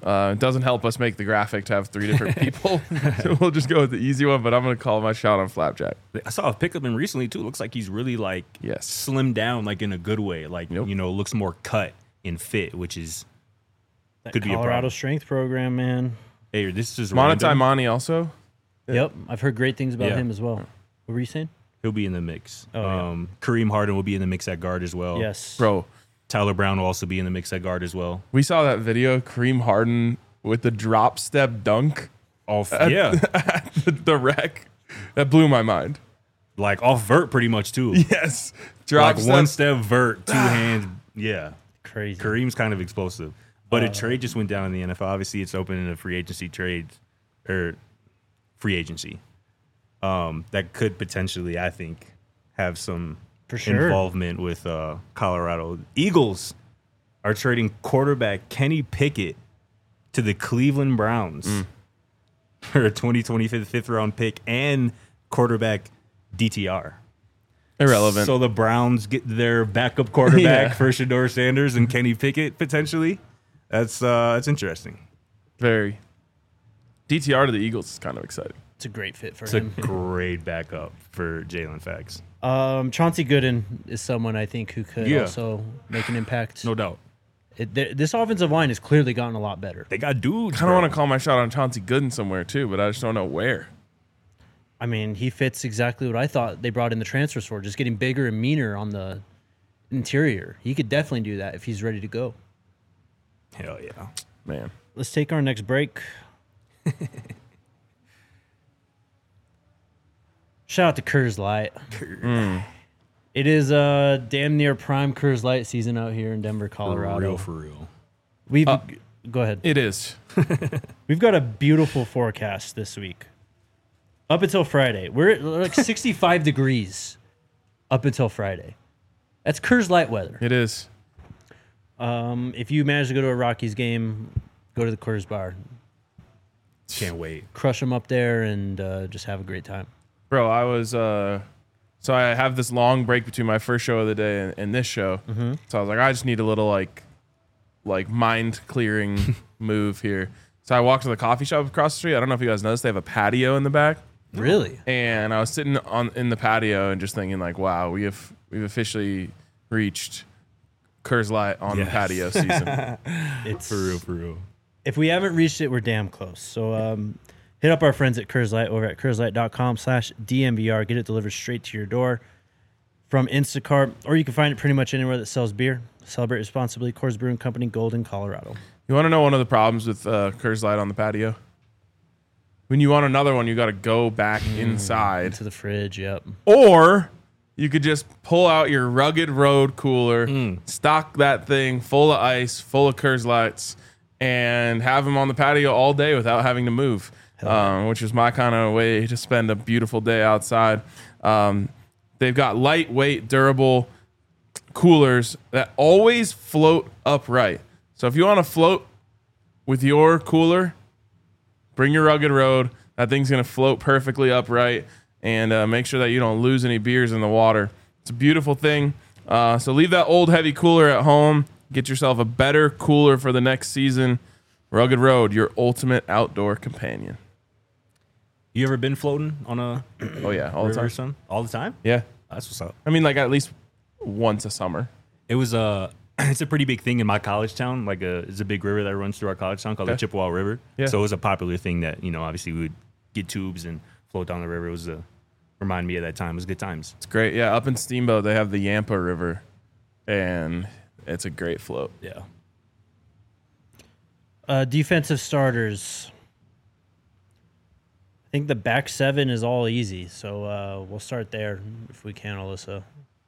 B: Uh, it doesn't help us make the graphic to have three different people. So we'll just go with the easy one, but I'm going to call my shot on Flapjack.
C: I saw a pic of him recently too. Looks like he's really like
B: Yes.
C: slimmed down, like in a good way. Like
B: Yep.
C: you know, looks more cut and fit, which is
A: That
C: could be a
A: Colorado
C: problem.
A: strength program, man.
C: Hey, this is
B: Monotai
C: random.
B: Mani also.
A: Yep, I've heard great things about
C: Yeah.
A: him as well. What were you saying?
C: He'll be in the mix.
A: Oh, yeah.
C: um, Kareem Harden will be in the mix at guard as well.
A: Yes,
B: Bro,
C: Tyler Brown will also be in the mix at guard as well.
B: we saw that video, Kareem Harden with the drop step dunk
C: Off, yeah,
B: at the, the wreck. That blew my mind.
C: like off vert pretty much too.
B: Yes. Drop
C: Like
B: step.
C: one step vert, two hands. Yeah,
A: crazy.
C: Kareem's kind of explosive. But a trade just went down in the N F L. Obviously, it's open in a free agency trade or free agency. Um, that could potentially, I think, have some
A: For sure.
C: involvement with uh, Colorado. Eagles are trading quarterback Kenny Pickett to the Cleveland Browns for a twenty twenty-five fifth round pick and quarterback D T R.
B: Irrelevant.
C: So the Browns get their backup quarterback
B: Yeah.
C: for Shador Sanders and Kenny Pickett potentially. That's uh, that's interesting.
B: Very. D T R to the Eagles is kind of exciting.
A: It's a great fit for
C: It's a
A: him.
C: great backup for Jalen Fax.
A: Um, Chauncey Gooden is someone I think who could
C: Yeah.
A: also make an impact.
C: No doubt.
A: It, th- this offensive line has clearly gotten a lot better.
C: They got dudes.
B: Kind of
C: bro.
B: want to call my shot on Chauncey Gooden somewhere too, but I just don't know where.
A: I mean, he fits exactly what I thought they brought in the transfers for, just getting bigger and meaner on the interior. He could definitely do that if he's ready to go.
C: Hell yeah.
B: Man.
A: Let's take our next break. Shout out to Coors Light. It is uh damn near prime Coors Light season out here in Denver,
C: For
A: Colorado.
C: real, for real.
A: We've
B: Uh,
A: go ahead.
B: It is.
A: We've got a beautiful forecast this week. Up until Friday, we're at like sixty-five degrees. Up until Friday, that's Coors Light weather.
B: It is.
A: Um, if you manage to go to a Rockies game, go to the Coors Bar,
C: Can't wait.
A: crush them up there, and uh, just have a great time.
B: Bro, I was uh so I have this long break between my first show of the day and, and this show.
A: Mm-hmm.
B: So I was like, I just need a little like like mind clearing move here. So I walked to the coffee shop across the street. I don't know if you guys noticed they have a patio in the back.
A: Really?
B: And I was sitting on in the patio and just thinking like, wow, we have we've officially reached Coors Light on the
C: Yes.
B: patio season.
A: It's
C: For real, for real.
A: if we haven't reached it, we're damn close. So um, hit up our friends at Coors Light over at CoorsLight.com slash DMVR. Get it delivered straight to your door from Instacart, or you can find it pretty much anywhere that sells beer. Celebrate responsibly. Coors Brewing Company, Golden, Colorado.
B: You want to know one of the problems with uh, Coors Light on the patio? When you want another one, you got to go back inside.
A: Into the fridge, yep.
B: Or you could just pull out your Rugged Road cooler, stock that thing full of ice, full of Coors Lights, and have them on the patio all day without having to move, um, which is my kind of way to spend a beautiful day outside. Um, they've got lightweight, durable coolers that always float upright. So if you want to float with your cooler, bring your Rugged Road. That thing's going to float perfectly upright, and uh, make sure that you don't lose any beers in the water. It's a beautiful thing. Uh, so leave that old heavy cooler at home. Get yourself a better cooler for the next season. Rugged Road, your ultimate outdoor companion.
C: You ever been floating on a
B: Oh, yeah, all the
C: river or
B: time.
C: something? All the time?
B: Yeah.
C: That's what's up.
B: I mean, like at least once a summer.
C: It was a. It's a pretty big thing in my college town. Like a, it's a big river that runs through our college town called
B: Okay.
C: the Chippewa River.
B: Yeah.
C: So it was a popular thing that you know. Obviously, we would get tubes and float down the river. It was a remind me of that time. It was good times.
B: It's great. Yeah, up in Steamboat, they have the Yampa River, and it's a great float.
C: Yeah.
A: Uh, defensive starters. I think the back seven is all easy, so uh, we'll start there if we can, Alyssa.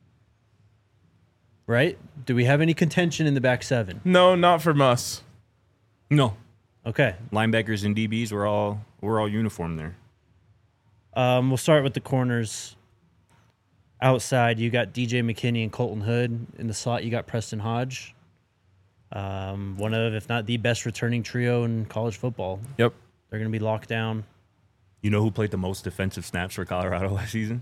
A: Right? Do we have any contention in the back seven?
B: No, not from us.
C: No.
A: Okay.
C: Linebackers and D Bs were all we're all uniform there.
A: Um, we'll start with the corners. Outside, you got D J McKinney and Colton Hood. In the slot, you got Preston Hodge. Um, one of, if not the best returning trio in college football.
B: Yep.
A: They're going to be locked down.
C: You know who played the most defensive snaps for Colorado last season?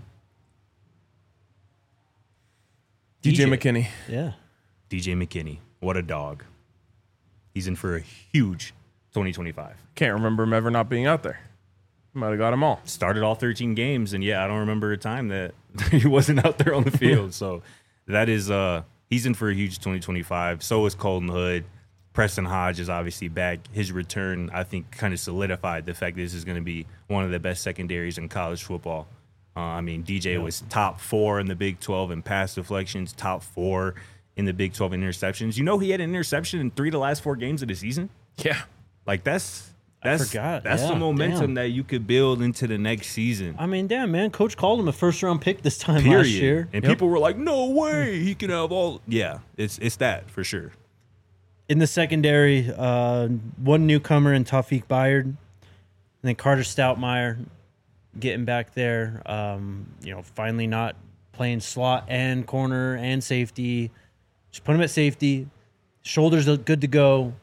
B: D J
C: D J.
B: McKinney.
A: Yeah.
C: D J McKinney. What a dog. He's in for a huge twenty twenty-five.
B: Can't remember him ever not being out there. Might have got them all.
C: Started all thirteen games, and yeah, I don't remember a time that he wasn't out there on the field. So that is uh he's in for a huge twenty twenty-five. So is Colton Hood. Preston Hodge is obviously back. His return, I think, kind of solidified the fact that this is going to be one of the best secondaries in college football. Uh, I mean, D J was top four in the Big twelve in pass deflections, top four in the Big twelve in interceptions. You know, he had an interception in three of the last four games of the season.
B: Yeah,
C: like that's that's
A: forgot.
C: that's
A: Yeah,
C: the momentum
A: damn.
C: that you could build into the next season.
A: I mean, damn, man. Coach called him a first round pick this time
C: Period.
A: last year.
C: And
B: Yep.
C: people were like, "No way, he can have all." Yeah, it's it's that for sure.
A: In the secondary, uh, one newcomer in Tawfiq Bayard, and then Carter Stoutmeyer getting back there. Um, you know, finally not playing slot and corner and safety. Just put him at safety. Shoulders look good to go.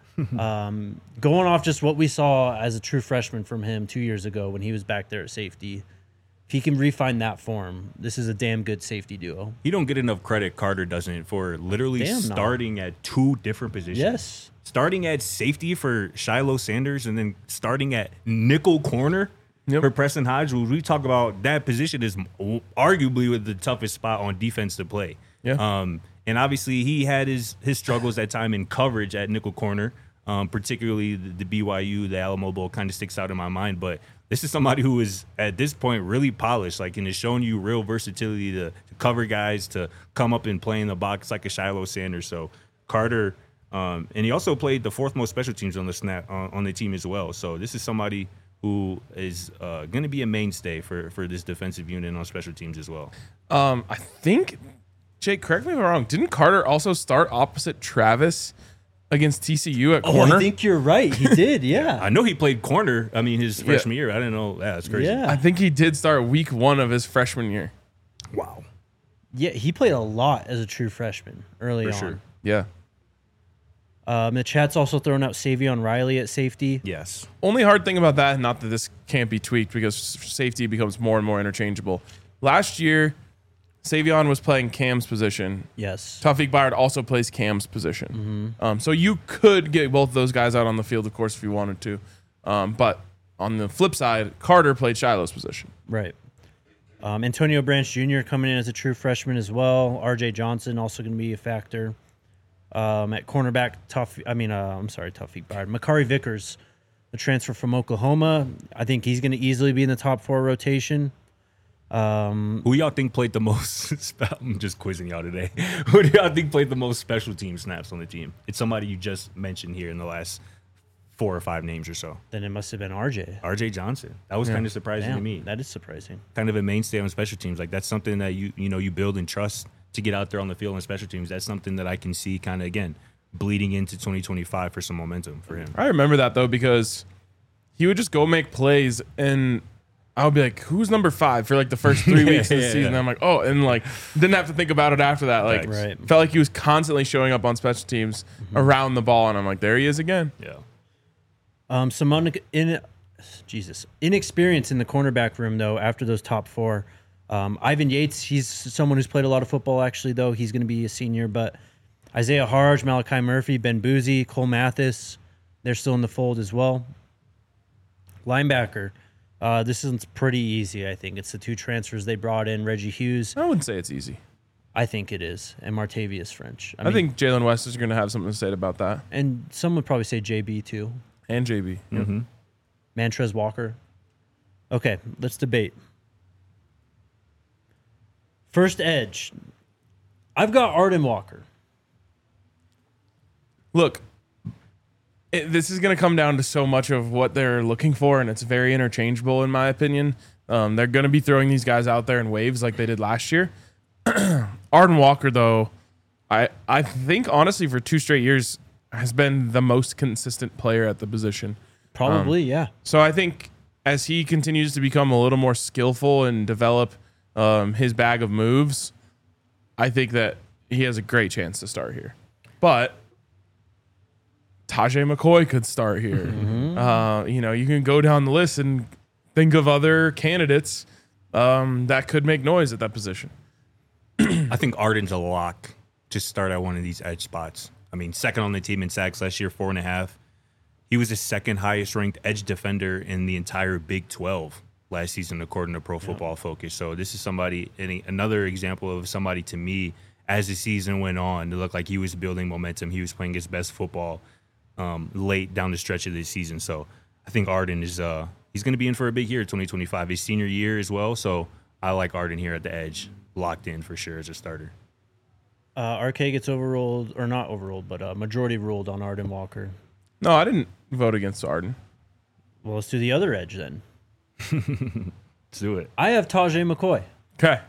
A: um, going off just what we saw as a true freshman from him two years ago when he was back there at safety. If he can refine that form, this is a damn good safety duo.
C: He don't get enough credit, Carter doesn't, for literally
A: Damn, no.
C: starting at two different positions.
A: Yes.
C: Starting at safety for Shiloh Sanders and then starting at nickel corner
B: Yep.
C: for Preston Hodge. We talk about that position is arguably the toughest spot on defense to play.
B: Yeah.
C: Um, and obviously he had his his struggles at time in coverage at nickel corner, um, particularly the, the B Y U, the Alamo Bowl kind of sticks out in my mind. But this is somebody who is at this point really polished, like, and is showing you real versatility to, to cover guys, to come up and play in the box like a Shiloh Sanders. So Carter, um, and he also played the fourth most special teams on the snap on, on the team as well. So this is somebody who is uh, going to be a mainstay for for this defensive unit on special teams as well.
B: Um, I think, Jake, correct me if I'm wrong. Didn't Carter also start opposite Travis against T C U at
A: Oh,
B: corner?
A: I think you're right. He did, yeah.
C: I know he played corner. I mean, his freshman year. I didn't know. Yeah, that's crazy.
A: Yeah.
B: I think he did start week one of his freshman year.
C: Wow.
A: Yeah, he played a lot as a true freshman early
C: For
A: on.
C: sure.
B: Yeah.
A: Um, the chat's also throwing out Savion Riley at safety.
C: Yes.
B: Only hard thing about that, not that this can't be tweaked because safety becomes more and more interchangeable. Last year, Savion was playing Cam's position.
A: Yes.
B: Tawfiq Bayard also plays Cam's position. Um, so you could get both those guys out on the field, of course, if you wanted to. Um, but on the flip side, Carter played Shiloh's position.
A: Right. Um, Antonio Branch Junior coming in as a true freshman as well. R J Johnson also going to be a factor. Um, at cornerback, tough. I mean, uh, I'm sorry, Tawfiq Bayard. Makari Vickers, the transfer from Oklahoma. I think he's going to easily be in the top four rotation. Um,
C: Who y'all think played the most? I'm just quizzing y'all today. Who do y'all think played the most special team snaps on the team? It's somebody you just mentioned here in the last four or five names or so.
A: then it must have been R J.
C: R J Johnson. That was kind of surprising to
A: Damn,
C: me.
A: that is surprising.
C: Kind of a mainstay on special teams. Like that's something that you you know you build and trust to get out there on the field on special teams. That's something that I can see kind of again bleeding into twenty twenty-five for some momentum for him.
B: I remember that, though, because he would just go make plays, and I would be like, who's number five for like the first three
C: Yeah,
B: weeks of the
C: yeah,
B: season?
C: yeah.
B: I'm like, oh, and like didn't have to think about it after that. Like,
C: Right.
A: Right.
B: felt like he was constantly showing up on special teams around the ball, and I'm like, there he is again.
C: Yeah.
A: Um, some un- in, Jesus inexperience in the cornerback room though. After those top four, um, Ivan Yates, he's someone who's played a lot of football. Actually, though he's going to be a senior. But Isaiah Harge, Malachi Murphy, Ben Boozy, Cole Mathis, they're still in the fold as well. Linebacker, uh, this is pretty easy. I think it's the two transfers they brought in. Reggie Hughes,
B: I wouldn't say it's easy.
A: I think it is, and Martavius French.
B: I, think Jalen West is going to have something to say about that,
A: and some would probably say J B too.
B: and J B.
C: Mm-hmm.
A: Mantrez Walker. Okay, let's debate. First edge. I've got Arden Walker.
B: Look, it, this is going to come down to so much of what they're looking for, and it's very interchangeable in my opinion. Um, they're going to be throwing these guys out there in waves like they did last year. Arden Walker, though, I I think honestly for two straight years has been the most consistent player at the position.
A: Probably, yeah.
B: So I think as he continues to become a little more skillful and develop um, his bag of moves, I think that he has a great chance to start here. But Tajay McCoy could start here.
A: Mm-hmm.
B: Uh, you know, you can go down the list and think of other candidates um, that could make noise at that position.
C: I think Arden's a lock to start at one of these edge spots. I mean, second on the team in sacks last year, four and a half. he was the second highest ranked edge defender in the entire Big twelve last season, according to Pro Football Focus. So this is somebody, any, another example of somebody to me, as the season went on, it looked like he was building momentum. He was playing his best football um, late down the stretch of this season. So I think Arden is uh, he's going to be in for a big year, twenty twenty-five, his senior year as well. So I like Arden here at the edge, locked in for sure as a starter.
A: Uh, R K gets overruled, or not overruled, but uh, majority ruled on Arden Walker.
B: No, I didn't vote against Arden.
A: Well, let's do the other edge then.
C: Let's do it.
A: I have Tajay McCoy.
B: Okay.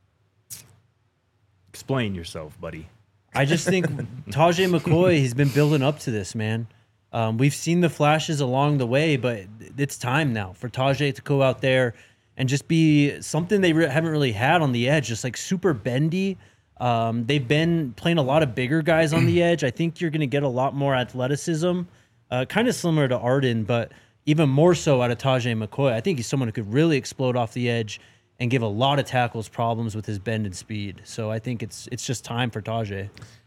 C: Explain yourself, buddy.
A: I just think Tajay McCoy, he's been building up to this, man. Um, we've seen the flashes along the way, but it's time now for Tajay to go out there and just be something they re- haven't really had on the edge, just like super bendy. Um, they've been playing a lot of bigger guys on the edge. I think you're going to get a lot more athleticism, uh, kind of similar to Arden, but even more so out of Tajay McCoy. I think he's someone who could really explode off the edge and give a lot of tackles problems with his bend and speed. So I think it's it's just time for Tajay.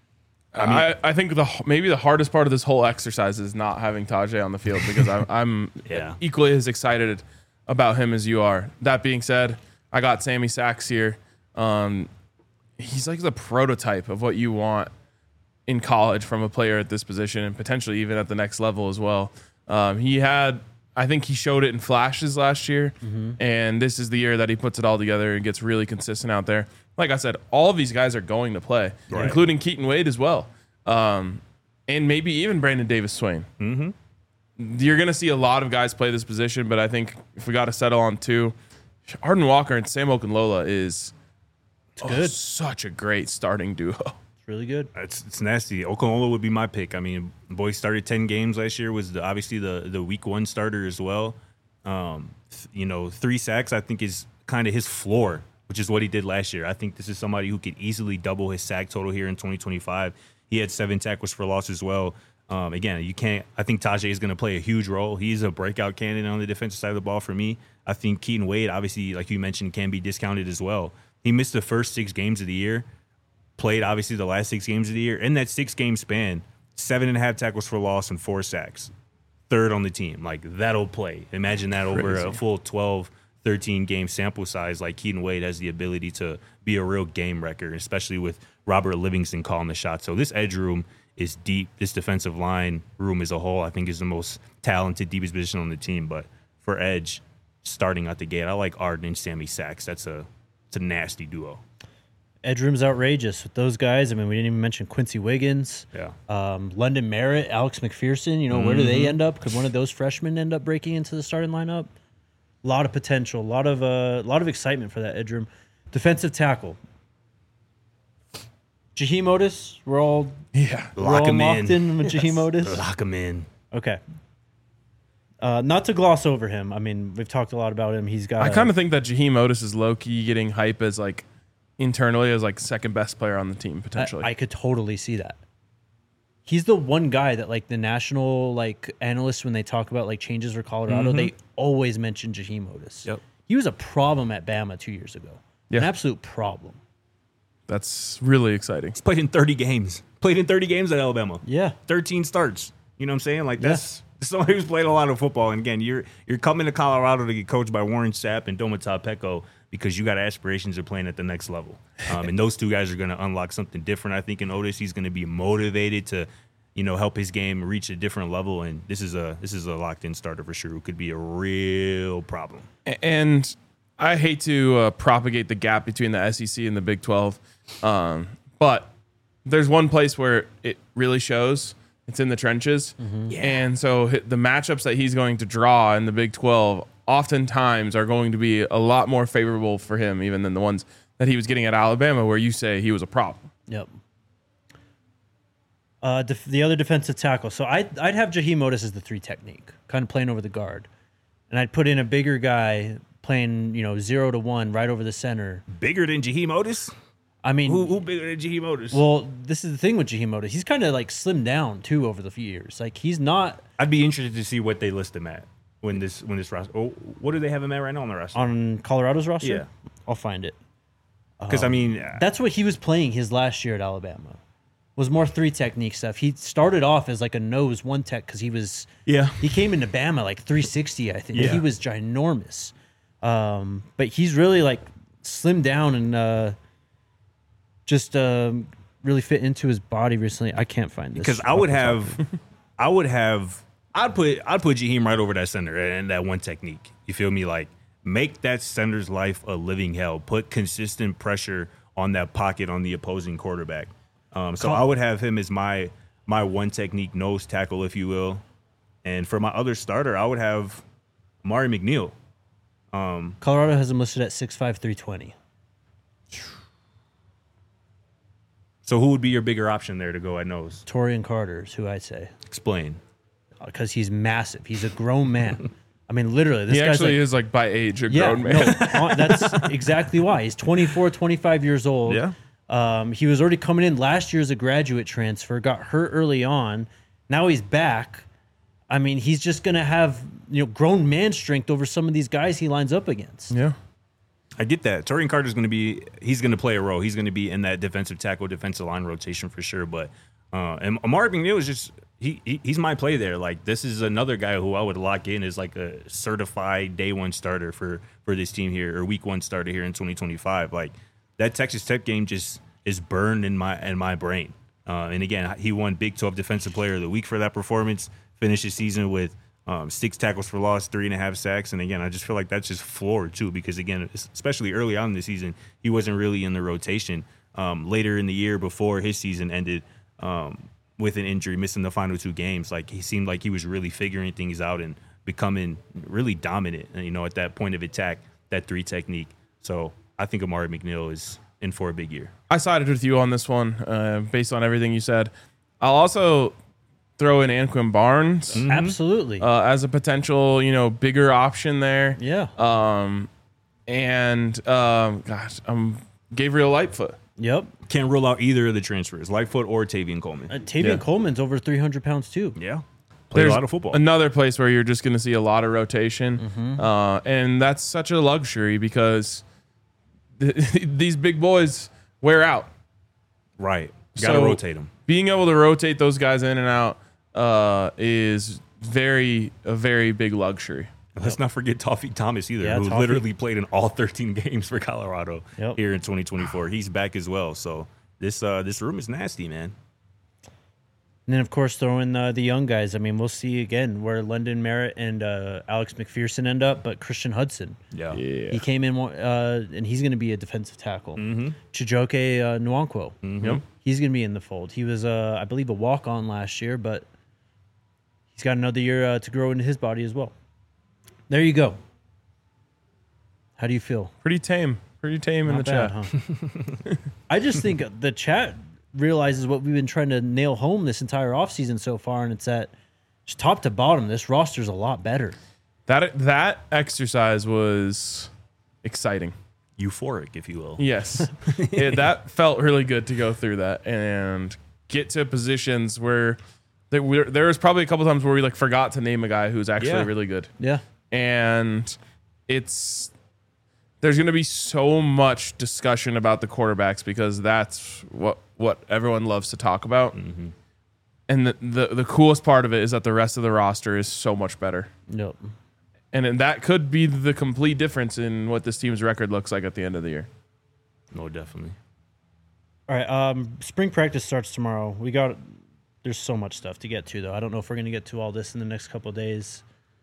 B: I, mean, I, I think the maybe the hardest part of this whole exercise is not having Tajay on the field because I'm, I'm
C: yeah.
B: equally as excited about him as you are. That being said, I got Sammy Sachs here. Um, he's like the prototype of what you want in college from a player at this position and potentially even at the next level as well. Um, he had, I think he showed it in flashes last year, mm-hmm. and this is the year that he puts it all together and gets really consistent out there. Like I said, all of these guys are going to play, right. including Keaton Wade as well, um, and maybe even Brandon Davis Swain.
C: Mm-hmm.
B: You're going to see a lot of guys play this position, but I think if we got to settle on two, Arden Walker and Sam Okunlola is oh,
A: good.
B: Such a great starting duo.
A: Really good.
C: It's it's nasty. Okunlola would be my pick. I mean, boy started ten games last year. Was the, obviously the the week one starter as well. Um, th- you know, three sacks I think is kind of his floor, which is what he did last year. I think this is somebody who could easily double his sack total here in twenty twenty-five. He had seven tackles for loss as well. Um, again, you can't. I think Tajay is going to play a huge role. He's a breakout candidate on the defensive side of the ball for me. I think Keaton Wade, obviously, like you mentioned, can be discounted as well. He missed the first six games of the year. Played, obviously, the last six games of the year. In that six-game span, seven and a half tackles for loss and four sacks. Third on the team. Like, that'll play. Imagine that over
B: Crazy.
C: a full twelve, thirteen-game sample size. Like, Keaton Wade has the ability to be a real game wrecker, especially with Robert Livingston calling the shot. So this edge room is deep. This defensive line room as a whole, I think, is the most talented, deepest position on the team. But for edge, starting out the gate, I like Arden and Sammy Sachs. That's a, it's a nasty duo.
A: Edge room's outrageous with those guys. I mean, we didn't even mention Quincy Wiggins,
C: yeah,
A: um, London Merritt, Alex McPherson. You know, mm-hmm. where do they end up? Could one of those freshmen end up breaking into the starting lineup? A lot of potential, a lot of a uh, lot of excitement for that edge room. Defensive tackle, Jaheim Otis. We're all
B: yeah,
A: we're
C: lock
A: all
C: him
A: locked
C: in,
A: in with
C: yes.
A: Jaheim Otis.
C: Lock him in.
A: Okay. Uh, not to gloss over him. I mean, we've talked a lot about him. He's got.
B: I kind of think that Jaheim Otis is low key getting hype as like. Internally as like second best player on the team potentially.
A: I, I could totally see that. He's the one guy that like the national like analysts when they talk about like changes for Colorado, mm-hmm. they always mention Jaheim Otis.
C: Yep.
A: He was a problem at Bama two years ago.
B: Yeah.
A: An absolute problem.
B: That's really exciting.
C: He's played in thirty games. Played in thirty games at Alabama.
A: Yeah.
C: thirteen starts. You know what I'm saying? Like that's yeah. somebody who's played a lot of football. And again, you're you're coming to Colorado to get coached by Warren Sapp and Domata Peko because you got aspirations of playing at the next level. Um, and those two guys are going to unlock something different. I think in Otis, he's going to be motivated to, you know, help his game reach a different level. And this is a this is a locked in starter for sure who could be a real problem.
B: And I hate to uh, propagate the gap between the S E C and the Big twelve, um, but there's one place where it really shows. It's in the trenches. Mm-hmm. Yeah. And so the matchups that he's going to draw in the Big twelve oftentimes are going to be a lot more favorable for him even than the ones that he was getting at Alabama where you say he was a problem.
A: Yep. Uh, def- the other defensive tackle. So I'd, I'd have Jaheim Otis as the three technique, kind of playing over the guard. And I'd put in a bigger guy playing, you know, zero to one right over the center.
C: Bigger than Jaheim Otis?
A: I mean,
C: who, who bigger than Jaheim Otis?
A: Well, this is the thing with Jaheim Otis. He's kind of like slimmed down too over the few years. Like he's not.
C: I'd be interested to see what they list him at when this when this roster. Oh, what do they have him at right now on the roster?
A: On Colorado's roster?
C: Yeah,
A: I'll find it.
C: Because
A: um,
C: I mean,
A: that's what he was playing his last year at Alabama. was more three technique stuff. He started off as like a nose one tech because he was
C: Yeah.
A: he came into Bama like three sixty, I think.
C: Yeah.
A: He was ginormous. Um, but he's really like slimmed down and uh, just um, really fit into his body recently. I can't find this
C: Because I would have, I would have, I'd put, I'd put Jaheim right over that center and that one technique. You feel me? Like make that center's life a living hell. Put consistent pressure on that pocket on the opposing quarterback. Um, so I would have him as my my one technique nose tackle, if you will. And for my other starter, I would have Amari McNeil.
A: Colorado has him listed at six five, three twenty.
C: So who would be your bigger option there to go at nose?
A: Torian Carter is who I'd say
C: Explain.
A: because he's massive. He's a grown man. I mean, literally, this
B: He
A: guy's
B: actually
A: like,
B: is like by age a
A: yeah,
B: grown man.
A: no, that's exactly why. He's twenty-four, twenty-five years old.
C: Yeah.
A: Um, he was already coming in last year as a graduate transfer, got hurt early on. Now he's back. I mean, he's just going to have, you know, grown man strength over some of these guys he lines up against.
B: Yeah.
C: I get that. Torian Carter's going to be, he's going to play a role. He's going to be in that defensive tackle, defensive line rotation for sure. But, uh, and Amari McNeil is just, he, he he's my play there. Like, this is another guy who I would lock in as like a certified day one starter for, for this team here, or week one starter here in twenty twenty-five. Like, that Texas Tech game just is burned in my, in my brain. Uh, and again, he won Big twelve Defensive Player of the Week for that performance, finished the season with Um, six tackles for loss, three and a half sacks. And again, I just feel like that's just floored too, because again, especially early on in the season, he wasn't really in the rotation. Um, later in the year before his season ended um, with an injury, missing the final two games, like he seemed like he was really figuring things out and becoming really dominant, you know, at that point of attack, that three technique. So I think Amari McNeil is in for a big year.
B: I sided with you on this one uh, based on everything you said. I'll also throw in Anquin Barnes
A: Mm-hmm. Absolutely.
B: uh, as a potential, you know, bigger option there.
A: yeah.
B: Um, and um, gosh, um, Gabriel Lightfoot.
A: yep.
C: Can't rule out either of the transfers, Lightfoot or Tavian Coleman.
A: Uh, Tavian
B: Yeah.
A: Coleman's over three hundred pounds too.
C: Yeah. Played
B: There's
C: a lot of football.
B: Another place where you're just going to see a lot of rotation,
A: Mm-hmm.
B: uh, and that's such a luxury because th- these big boys wear out.
C: Right. Got to
B: So,
C: rotate them.
B: Being able to rotate those guys in and out uh, is very a very big luxury.
C: Let's not forget Toffee Thomas either,
A: Yeah,
C: who
A: Toffee.
C: literally played in all thirteen games for Colorado
A: Yep.
C: here in twenty twenty-four. He's back as well. So this uh, this room is nasty, man.
A: And then, of course, throw in uh, the young guys. I mean, we'll see again where London Merritt and uh, Alex McPherson end up, but Christian Hudson.
C: Yeah.
A: He came in, uh, and he's going to be a defensive tackle. Mm-hmm. Chijoke uh, Nwankwo.
B: Yep.
A: He's going to be in the fold. He was, uh, I believe, a walk-on last year, but he's got another year uh, to grow into his body as well. There you go. How do you feel?
B: Pretty tame. Pretty tame in
A: Not
B: the
A: bad,
B: chat.
A: huh? I just think the chat realizes what we've been trying to nail home this entire offseason so far, and it's that just top to bottom, this roster's a lot better.
B: That that exercise was exciting.
C: Euphoric, if you will.
B: Yes, it, that felt really good to go through that and get to positions where there, were, there was probably a couple times where we like forgot to name a guy who's actually
C: Yeah.
B: really good,
A: Yeah.
B: and it's there's going to be so much discussion about the quarterbacks because that's what what everyone loves to talk about.
C: Mm-hmm.
B: And the, the the coolest part of it is that the rest of the roster is so much better.
A: Nope.
B: And then that could be the complete difference in what this team's record looks like at the end of the year.
C: No, definitely.
A: All right. Um, spring practice starts tomorrow. We got there's so much stuff to get to though. I don't know if we're gonna get to all this in the next couple of days.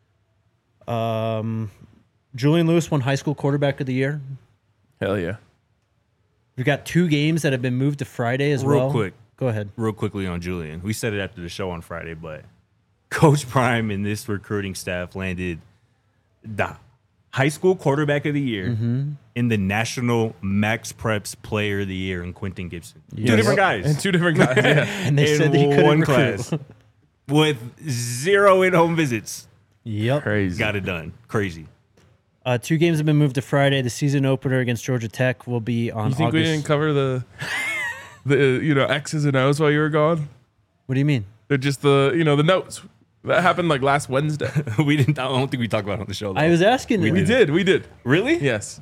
A: Um, Julian Lewis won high school quarterback of the year.
B: Hell yeah.
A: We've got two games that have been moved to Friday as
C: Real
A: well.
C: quick.
A: Go ahead.
C: Real quickly on Julian. We said it after the show on Friday, but Coach Prime and this recruiting staff landed the high school quarterback of the year
A: Mm-hmm.
C: in the National Max Preps Player of the Year in Quentin Gibson. Two
A: Yes.
C: different guys.
B: And two different guys. Yeah.
A: And they
C: in
A: said that he couldn't
C: one
A: recruit.
C: class with zero in-home visits.
A: Yep.
B: Crazy.
C: Got it done. Crazy.
A: Uh, two games have been moved to Friday. The season opener against Georgia Tech will be on
B: You think
A: August.
B: we didn't cover the the you know X's and O's while you were gone?
A: What do you mean?
B: They're just the you know the notes. That happened like last Wednesday.
C: we didn't. I don't think we talked about it on the show. Though.
A: I was asking.
C: We
B: we
C: did.
B: did, we did.
C: Really?
B: Yes.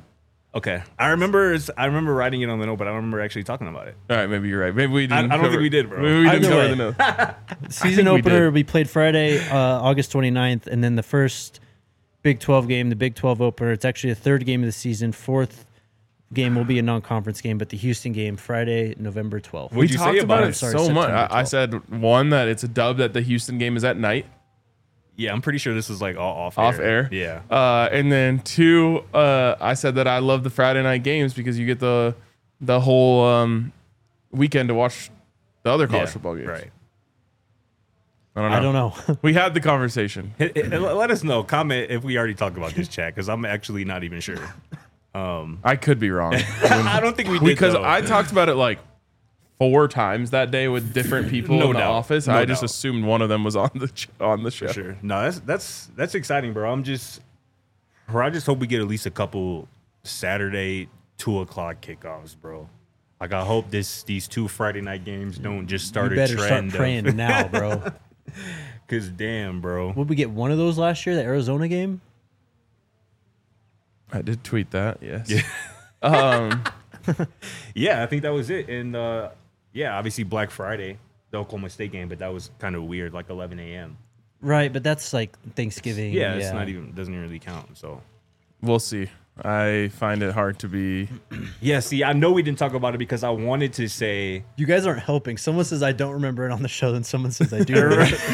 C: Okay, I remember. I remember writing it on the note, but I don't remember actually talking about it.
B: All right, maybe you're right. Maybe we
C: I,
B: didn't.
C: I don't
B: cover,
C: think we did, bro.
B: Maybe we didn't
A: Either
B: cover
A: way.
B: the note.
A: Season
B: we
A: opener
B: did.
A: will be played Friday, uh, August twenty-ninth, and then the first Big twelve game, the Big twelve opener. It's actually the third game of the season. Fourth game will be a non-conference game, but the Houston game, Friday, November twelfth.
C: What'd
B: We
C: you
B: talked
C: say
B: about
C: about
B: it
C: it?
A: Sorry,
B: so much.
A: September
B: I, I said one that it's a dub that the Houston game is at night,
C: Yeah, I'm pretty sure this was like all off
B: off
C: air.
B: air.
C: Yeah.
B: Uh, and then two, uh, I said that I love the Friday night games because you get the the whole um, weekend to watch the other college
C: Yeah,
B: football games.
C: Right.
B: I don't know.
A: I don't know.
B: We had the conversation.
C: Hit- hit- Let us know. Comment if we already talked about this chat because I'm actually not even sure. Um,
B: I could be wrong
C: I don't think we did
B: because
C: though.
B: I talked about it like four times that day with different people
C: No
B: in the
C: doubt.
B: office.
C: No
B: I just
C: doubt.
B: assumed one of them was on the ch- on the show.
C: For sure. No, that's that's that's exciting, bro. I'm just, bro. I just hope we get at least a couple Saturday two o'clock kickoffs, bro. Like I hope this these two Friday night games don't just start
A: You
C: a
A: better start
C: trend.
A: praying now, bro.
C: Cause damn, bro.
A: Would we get one of those last year, the Arizona game?
B: I did tweet that. Yes.
C: Yeah.
B: Um,
C: Yeah, I think that was it. And uh, yeah, obviously Black Friday, the Oklahoma State game, but that was kind of weird, like eleven a.m.
A: Right, but that's like Thanksgiving.
C: Yeah, it's not even doesn't really count. So
B: we'll see. I find it hard to be.
C: yeah, see, I know we didn't talk about it because I wanted to say
A: You guys aren't helping. Someone says I don't remember it on the show, then someone says I do. remember it.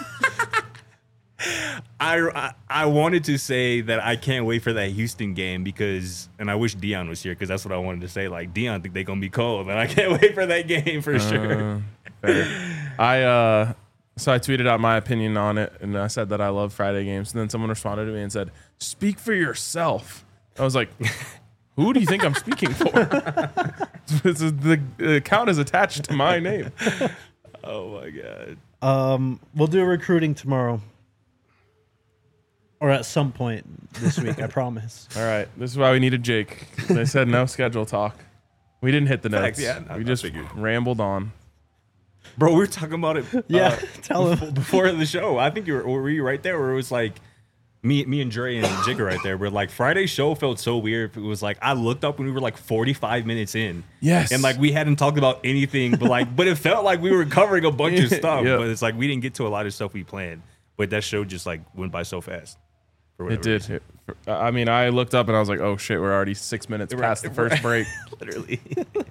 C: I, I I wanted to say that I can't wait for that Houston game because, and I wish Dion was here because that's what I wanted to say. Like Dion think they're gonna be cold, and I can't wait for that game for sure.
B: Uh, fair. I uh, so I tweeted out my opinion on it, and I said that I love Friday games. And then someone responded to me and said, "Speak for yourself." I was like, "Who do you think I'm speaking for?" This is- the account is attached to my name.
C: Oh my god.
A: Um, we'll do a recruiting tomorrow. Or at some point this week, I promise.
B: All right, this is why we needed Jake. They said no schedule talk. We didn't hit the
C: Facts,
B: notes.
C: yeah, I-
B: we
C: I
B: just
C: figured.
B: rambled on.
C: Bro, we were talking about it.
A: Yeah,
C: uh,
A: tell
C: before,
A: him.
C: before the show. I think you were, were you right there where it was like me, me and Dre and Jigga right there. Where like Friday's show felt so weird. It was like I looked up when we were like forty-five minutes in.
B: Yes.
C: and like we hadn't talked about anything, but like, but it felt like we were covering a bunch of stuff.
B: Yep.
C: But it's like we didn't get to a lot of stuff we planned. But that show just like went by so fast. for
B: It
C: whatever
B: did.
C: reason.
B: It- I mean, I looked up and I was like, "Oh shit, we're already six minutes
C: Right,
B: past the first
C: right.
B: break."
C: Literally.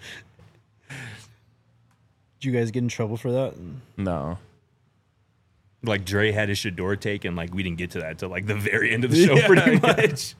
A: Did you guys get in trouble for that?
B: No.
C: Like Dre had his Shador take, and like we didn't get to that until like the very end of the show, pretty much.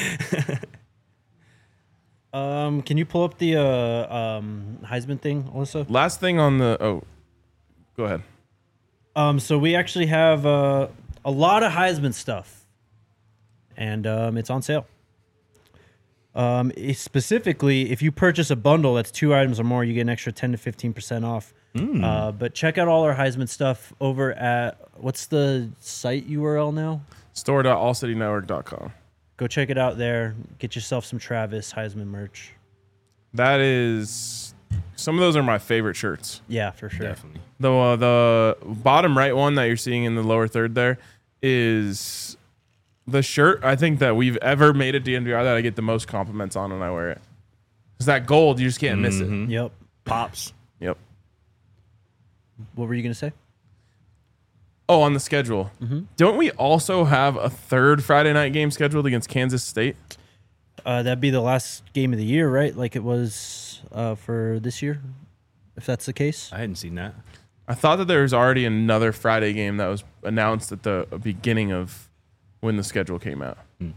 A: Um, can you pull up the uh, um, Heisman thing, Alyssa?
B: Last thing on the oh, go ahead.
A: Um, so we actually have uh, a lot of Heisman stuff, and um, it's on sale. Um, it- specifically, if you purchase a bundle that's two items or more, you get an extra ten to fifteen percent off. Uh, but check out all our Heisman stuff over at what's the site U R L now?
B: store dot all city network dot com.
A: Go check it out there. Get yourself some Travis Heisman merch.
B: That is, some of those are my favorite shirts.
A: Yeah, for sure.
C: Definitely.
B: The uh, the bottom right one that you're seeing in the lower third there is the shirt I think that we've ever made at D N V R that I get the most compliments on when I wear it. It's that gold, you just can't miss it.
A: Yep.
C: Pops.
B: Yep.
A: What were you gonna say?
B: Oh, on the schedule. Don't we also have a third Friday night game scheduled against Kansas State?
A: Uh, that'd be the last game of the year, right? Like it was uh, for this year, if that's the case.
C: I hadn't seen that.
B: I thought that there was already another Friday game that was announced at the beginning of when the schedule came out.
C: Hmm.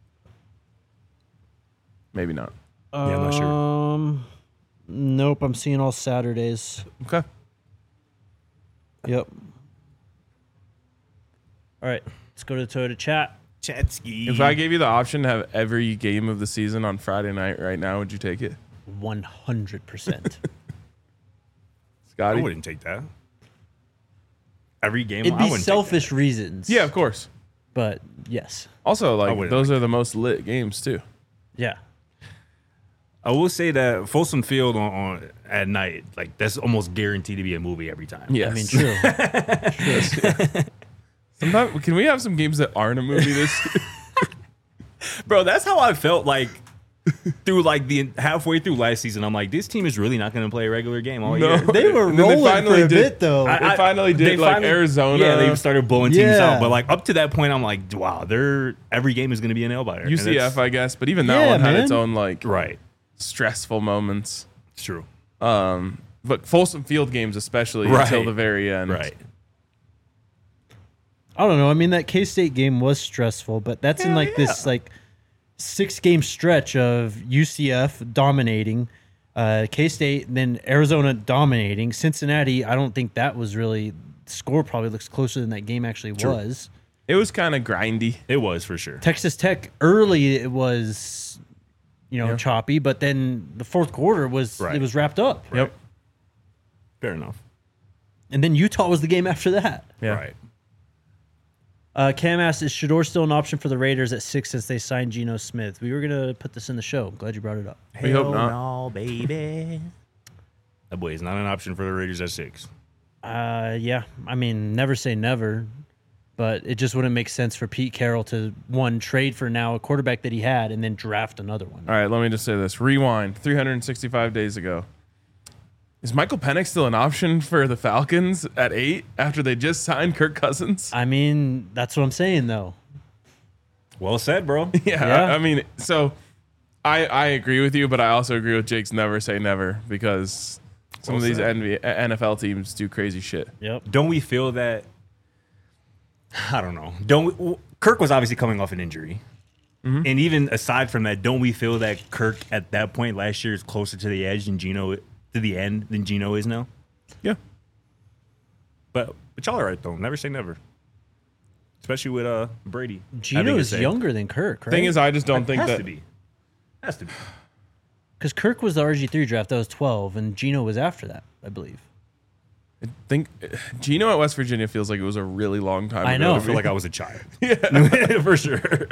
B: Maybe not.
C: Yeah, I'm not sure.
A: Um, nope. I'm seeing all Saturdays.
B: Okay.
A: Yep. All right, let's go to the Toyota chat.
C: Chatsky.
B: If I gave you the option to have every game of the season on Friday night right now, would you take it?
A: One hundred percent.
C: I
B: Scotty?
C: wouldn't take that. Every game,
A: It'd
C: I
A: be
C: wouldn't take
A: selfish reasons.
B: Yeah, of course.
A: but yes,
B: Also, like
C: wouldn't
B: those are the most lit games too.
A: yeah.
C: that. I will say that Folsom Field on, on at night, like that's almost guaranteed to be a movie every time.
B: Yes.
A: I mean, true.
B: Sometimes can we have some games that aren't a movie this?
C: Bro, that's how I felt like through like the halfway through last season, I'm like, this team is really not going to play a regular game all
B: No.
C: year.
A: They were
B: And then they
A: rolling
B: finally
A: for a
B: did-
A: bit though.
C: I-
B: They finally did,
C: they
B: like,
C: finally-
B: Arizona.
C: Yeah, they started blowing teams
A: Yeah.
C: out. But like up to that point, I'm like, wow, they're every game is going to be a nail biter. And
B: U C F,
C: that's-
B: I guess, but even that
A: Yeah,
B: one had its
A: man.
B: own like
C: right?
B: stressful moments.
C: It's true.
B: Um, but Folsom Field games, especially
C: Right.
B: until the very end.
C: Right.
A: I don't know. I mean, that K-State game was stressful, but that's in
C: Hell
A: like this
C: yeah.
A: like six game stretch of U C F dominating, uh, K-State, then Arizona dominating. Cincinnati, I don't think that was really the score. Probably looks closer than that game actually was.
B: It was kind of grindy.
C: It was for sure.
A: Texas Tech early it was, you know,
B: Yeah.
A: choppy, but then the fourth quarter was
C: Right.
A: it was wrapped up.
B: Yep.
C: Fair enough.
A: And then Utah was the game after that.
B: Yeah.
C: Right.
A: Uh, Cam asked, is Shador still an option for the Raiders at six since they signed Geno Smith? We were going to put this in the show. I'm glad you brought it up.
B: We hope
C: Hell
B: not.
C: no, baby. That boy is not an option for the Raiders at six.
A: Uh, yeah. I mean, never say never, but it just wouldn't make sense for Pete Carroll to, one, trade for now a quarterback that he had and then draft another one.
B: All right, let me just say this. Rewind three hundred sixty-five days ago. Is Michael Penix still an option for the Falcons at eight after they just signed Kirk Cousins?
A: I mean, that's what I'm saying, though.
C: Well said, bro.
B: Yeah,
A: Yeah.
B: I, I mean, so I I agree with you, but I also agree with Jake's never say never because some
C: Well
B: of these
C: said.
B: N B A N F L teams do crazy shit.
A: Yep.
C: Don't we feel that? I don't know. Don't we, well, Kirk was obviously coming off an injury, and even aside from that, don't we feel that Kirk at that point last year is closer to the edge than Geno to the end than Geno is now?
B: Yeah.
C: But but y'all are right though. Never say never, especially with uh Brady.
A: Geno
C: having a
A: is
C: say.
A: younger than Kirk, right?
B: Thing is, I just don't think
C: has
B: that
C: to be. Has to be.
A: Because Kirk was the R G three draft. That was twelve, and Geno was after that, I believe.
B: I think Geno at West Virginia feels like it was a really long time
A: I
B: ago.
A: know.
B: to
C: I feel
B: me.
C: like I was a child. Yeah, for sure.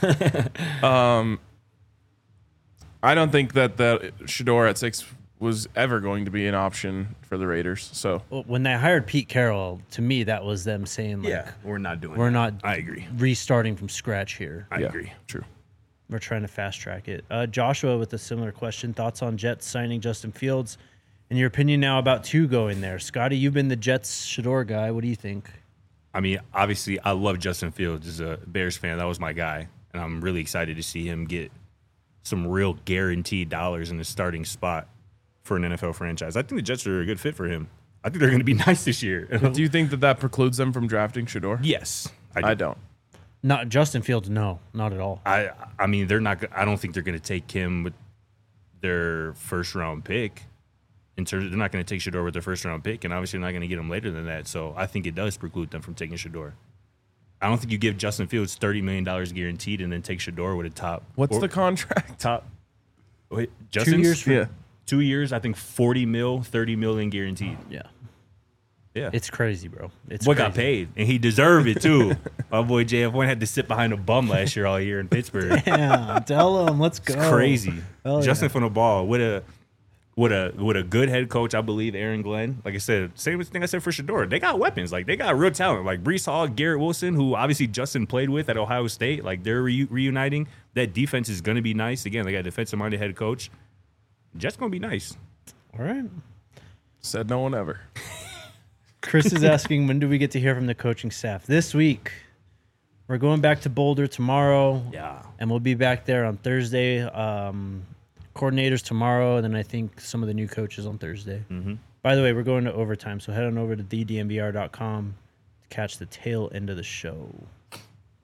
B: I don't think that the Shador at six was ever going to be an option for the Raiders. So
A: Well, when they hired Pete Carroll, to me, that was them saying, like,
C: Yeah, we're not doing.
A: we're
C: that.
A: not
C: I agree.
A: restarting from scratch here.
C: I
B: yeah,
C: agree.
B: True.
A: We're trying to fast track it. Uh, Joshua with a similar question. Thoughts on Jets signing Justin Fields? In your opinion now about two going there. Scotty, you've been the Jets Shador guy. What do you think?
C: I mean, obviously, I love Justin Fields as a Bears fan. That was my guy, and I'm really excited to see him get some real guaranteed dollars in the starting spot for an N F L franchise. I think the Jets are a good fit for him. I think they're going to be nice this year.
B: Do you think that that precludes them from drafting Shador?
C: yes, I, do.
B: I don't.
A: Not Justin Fields, no, not at all.
C: I I mean, they're not. go- I don't think they're going to take him with their first round pick. In terms, they're not going to take Shador with their first round pick, and obviously, they're not going to get him later than that. So I think it does preclude them from taking Shador. I don't think you give Justin Fields thirty million dollars guaranteed and then take Shador with a top.
B: What's
C: or-
B: the contract?
C: top? Wait, Justin's?
A: years for-
B: Yeah.
C: Two years. I think forty mil, thirty million guaranteed.
A: Yeah.
C: Yeah.
A: It's crazy, bro. It's
C: What
A: crazy.
C: got paid, and he deserved it too. My boy J F one had to sit behind a bum last year all year in Pittsburgh.
A: Yeah, tell him. Let's go.
C: It's crazy.
A: Hell
C: Justin
A: yeah.
C: from the ball with a with a with a good head coach, I believe Aaron Glenn. Like I said, same thing I said for Shador. They got weapons. Like they got real talent. Like Brees Hall, Garrett Wilson, who obviously Justin played with at Ohio State. Like they're reu- reuniting. That defense is going to be nice. Again, they got a defensive minded head coach. Jets going to be nice.
A: All right.
B: Said no one ever.
A: Chris is asking, when do we get to hear from the coaching staff? This week. We're going back to Boulder tomorrow.
C: Yeah.
A: And we'll be back there on Thursday. Um, coordinators tomorrow, and then I think some of the new coaches on Thursday. Mm-hmm. By the way, we're going to overtime, so head on over to the d m v r dot com to catch the tail end of the show. You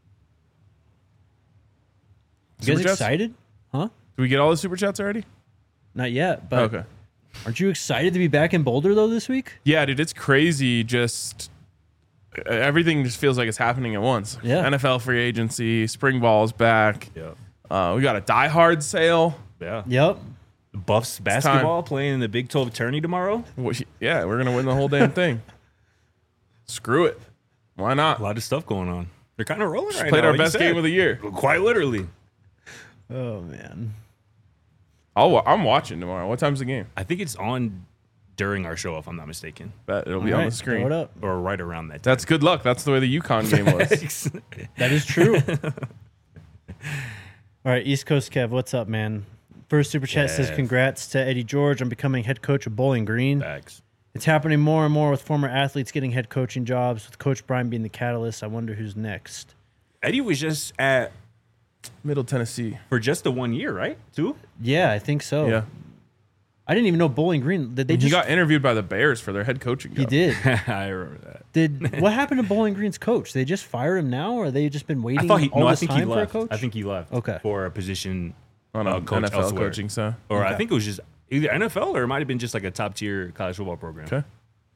A: guys
B: Super Chats?
A: excited? Huh?
B: Do we get all the super chats already?
A: Not yet, but
B: Okay.
A: aren't you excited to be back in Boulder, though, this week?
B: Yeah, dude, it's crazy. Just uh, everything just feels like it's happening at once.
A: Yeah.
B: N F L free agency, spring ball's back.
C: Yeah.
B: Uh, we got a Die Hard sale.
C: Yeah.
A: Yep.
C: Buffs basketball playing in the Big twelve tourney tomorrow.
B: Wh- Yeah, we're gonna win the whole damn thing. Screw it. Why not?
C: A lot of stuff going on. They're kind of rolling right
B: Played
C: now.
B: our
C: like you
B: best
C: said.
B: game of the year.
C: Quite literally.
A: Oh, man.
B: I'll, wa- I'm watching tomorrow. What time's the game?
C: I think it's on during our show, if I'm not mistaken,
B: Bet it'll be
A: All
B: on
A: right,
B: the screen.
A: throw it up.
C: or right around that.
B: That's good luck. That's the way the UConn game was.
C: time.
A: That is true. All right, East Coast Kev, what's up, man? First super chat says,
C: Yeah.
A: congrats to Eddie George on becoming head coach of Bowling Green.
C: Facts.
A: It's happening more and more with former athletes getting head coaching jobs, with Coach Brian being the catalyst. I wonder who's next.
C: Eddie was just at
B: Middle Tennessee.
C: for just the one year, right? Two?
A: Yeah, I think so.
B: Yeah.
A: I didn't even know Bowling Green. Did they
B: He
A: just?
B: got interviewed by the Bears for their head coaching job.
A: he did.
C: I remember that.
A: Did what happened to Bowling Green's coach? They just fire him now, or they just been waiting
C: I thought he.
A: all
C: No, I
A: this
C: think
A: time
C: he
A: for a
C: left.
A: coach?
C: I think he left.
A: Okay.
C: For a position
B: On
C: uh,
B: a
C: coach
B: N F L
C: elsewhere.
B: coaching, so.
C: Or I
A: Okay.
C: think it was just either N F L or it might have been just like a top tier college football program.
B: Okay.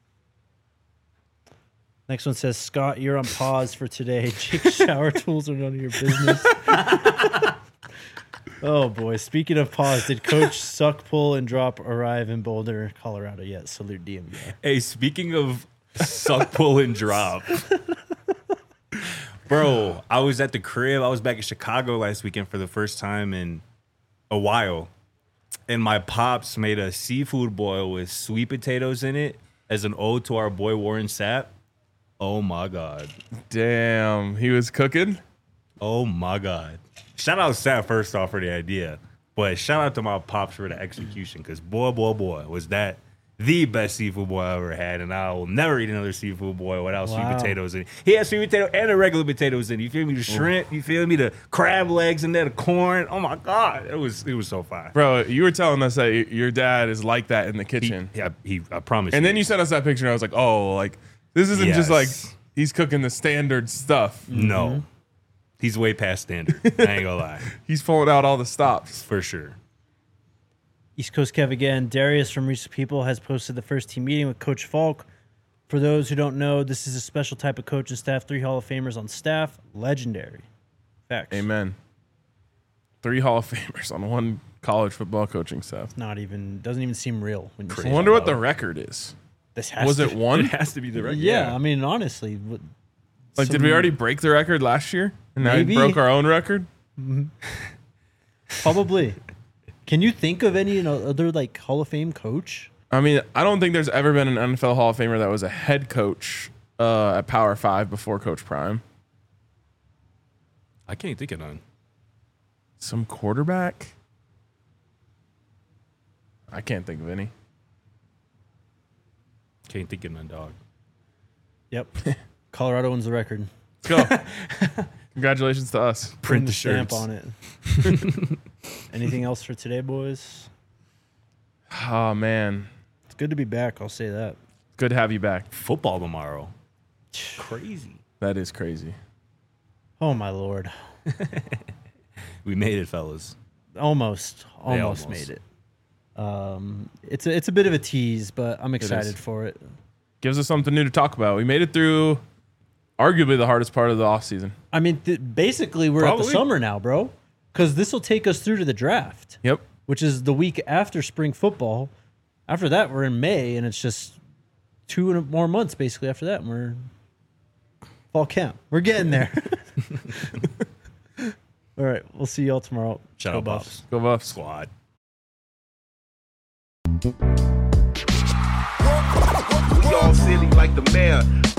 A: Next one says, Scott, you're on pause for today. Jake's shower tools are none of your business. Oh boy! Speaking of pause, did Coach Suck, Pull, and Drop arrive in Boulder, Colorado yet? Salute D M V.
C: Hey, speaking of suck, pull, and drop, bro, I was at the crib. I was back in Chicago last weekend for the first time in a while, and my pops made a seafood boil with sweet potatoes in it as an ode to our boy Warren Sapp. Oh my god!
B: Damn. He was cooking.
C: Oh my god! Shout out Sapp first off for the idea, but shout out to my pops for the execution, because boy, boy, boy, was that the best seafood boil I ever had, and I will never eat another seafood boil without
A: Wow.
C: sweet potatoes in it. He had sweet potato and the regular potatoes in it. You feel me? The shrimp, you feel me? The crab legs in there, the corn. Oh my god, it was it was so fire.
B: Bro, you were telling us that y- your dad is like that in the
C: He,
B: kitchen.
C: yeah, he, I promise.
B: And then you sent us that picture, and I was like, oh, like, this isn't just like
C: Yes.
B: he's cooking the standard stuff.
C: no, he's way past standard. I ain't gonna lie,
B: He's pulling out all the stops.
C: for sure.
A: East Coast Kev again. Darius from Recent People has posted the first team meeting with Coach Falk. For those who don't know, this is a special type of coach and staff. Three Hall of Famers on staff. Legendary. Facts.
B: Amen. Three Hall of Famers on one college football coaching staff.
A: Not even, doesn't even seem real when you
B: I
A: say
B: wonder
A: it.
B: what the record is.
A: This has
B: Was
A: to
B: it one?
C: It has to be the record.
A: Yeah, I mean, honestly. what-
B: Like, did we
A: some-
B: already break the record last year? And now
A: Maybe.
B: we broke our own record?
A: Probably. Can you think of any you know, other like Hall of Fame coach?
B: I mean, I don't think there's ever been an N F L Hall of Famer that was a head coach uh, at Power Five before Coach Prime.
C: I can't think of none.
B: Some quarterback? I can't think of any.
C: Can't think of none, dog.
A: Yep. Colorado wins the record.
B: Let's go. Congratulations to us.
C: Print the
A: stamp
C: shirts.
A: on it. Anything else for today, boys?
B: Oh, man.
A: It's good to be back. I'll say that.
B: Good to have you back.
C: Football tomorrow. Crazy.
B: That is crazy.
A: Oh my lord.
C: We made it, fellas.
A: Almost.
C: They
A: Almost,
C: almost.
A: made it. Um, it's a, it's a bit of a tease, but I'm excited
B: is.
A: for it.
B: Gives us something new to talk about. We made it through arguably the hardest part of the offseason.
A: I mean, th- basically, we're at
C: Probably.
A: the summer now, bro. Because this will take us through to the draft,
B: Yep.
A: which is the week after spring football. After that, we're in May, and it's just two and more months basically after that, and we're fall camp. We're getting there. All right, we'll see y'all tomorrow.
C: Shout
A: Go
C: out
A: Buffs.
C: Buffs.
B: Go Buffs.
C: Squad.
D: We all silly like the mayor.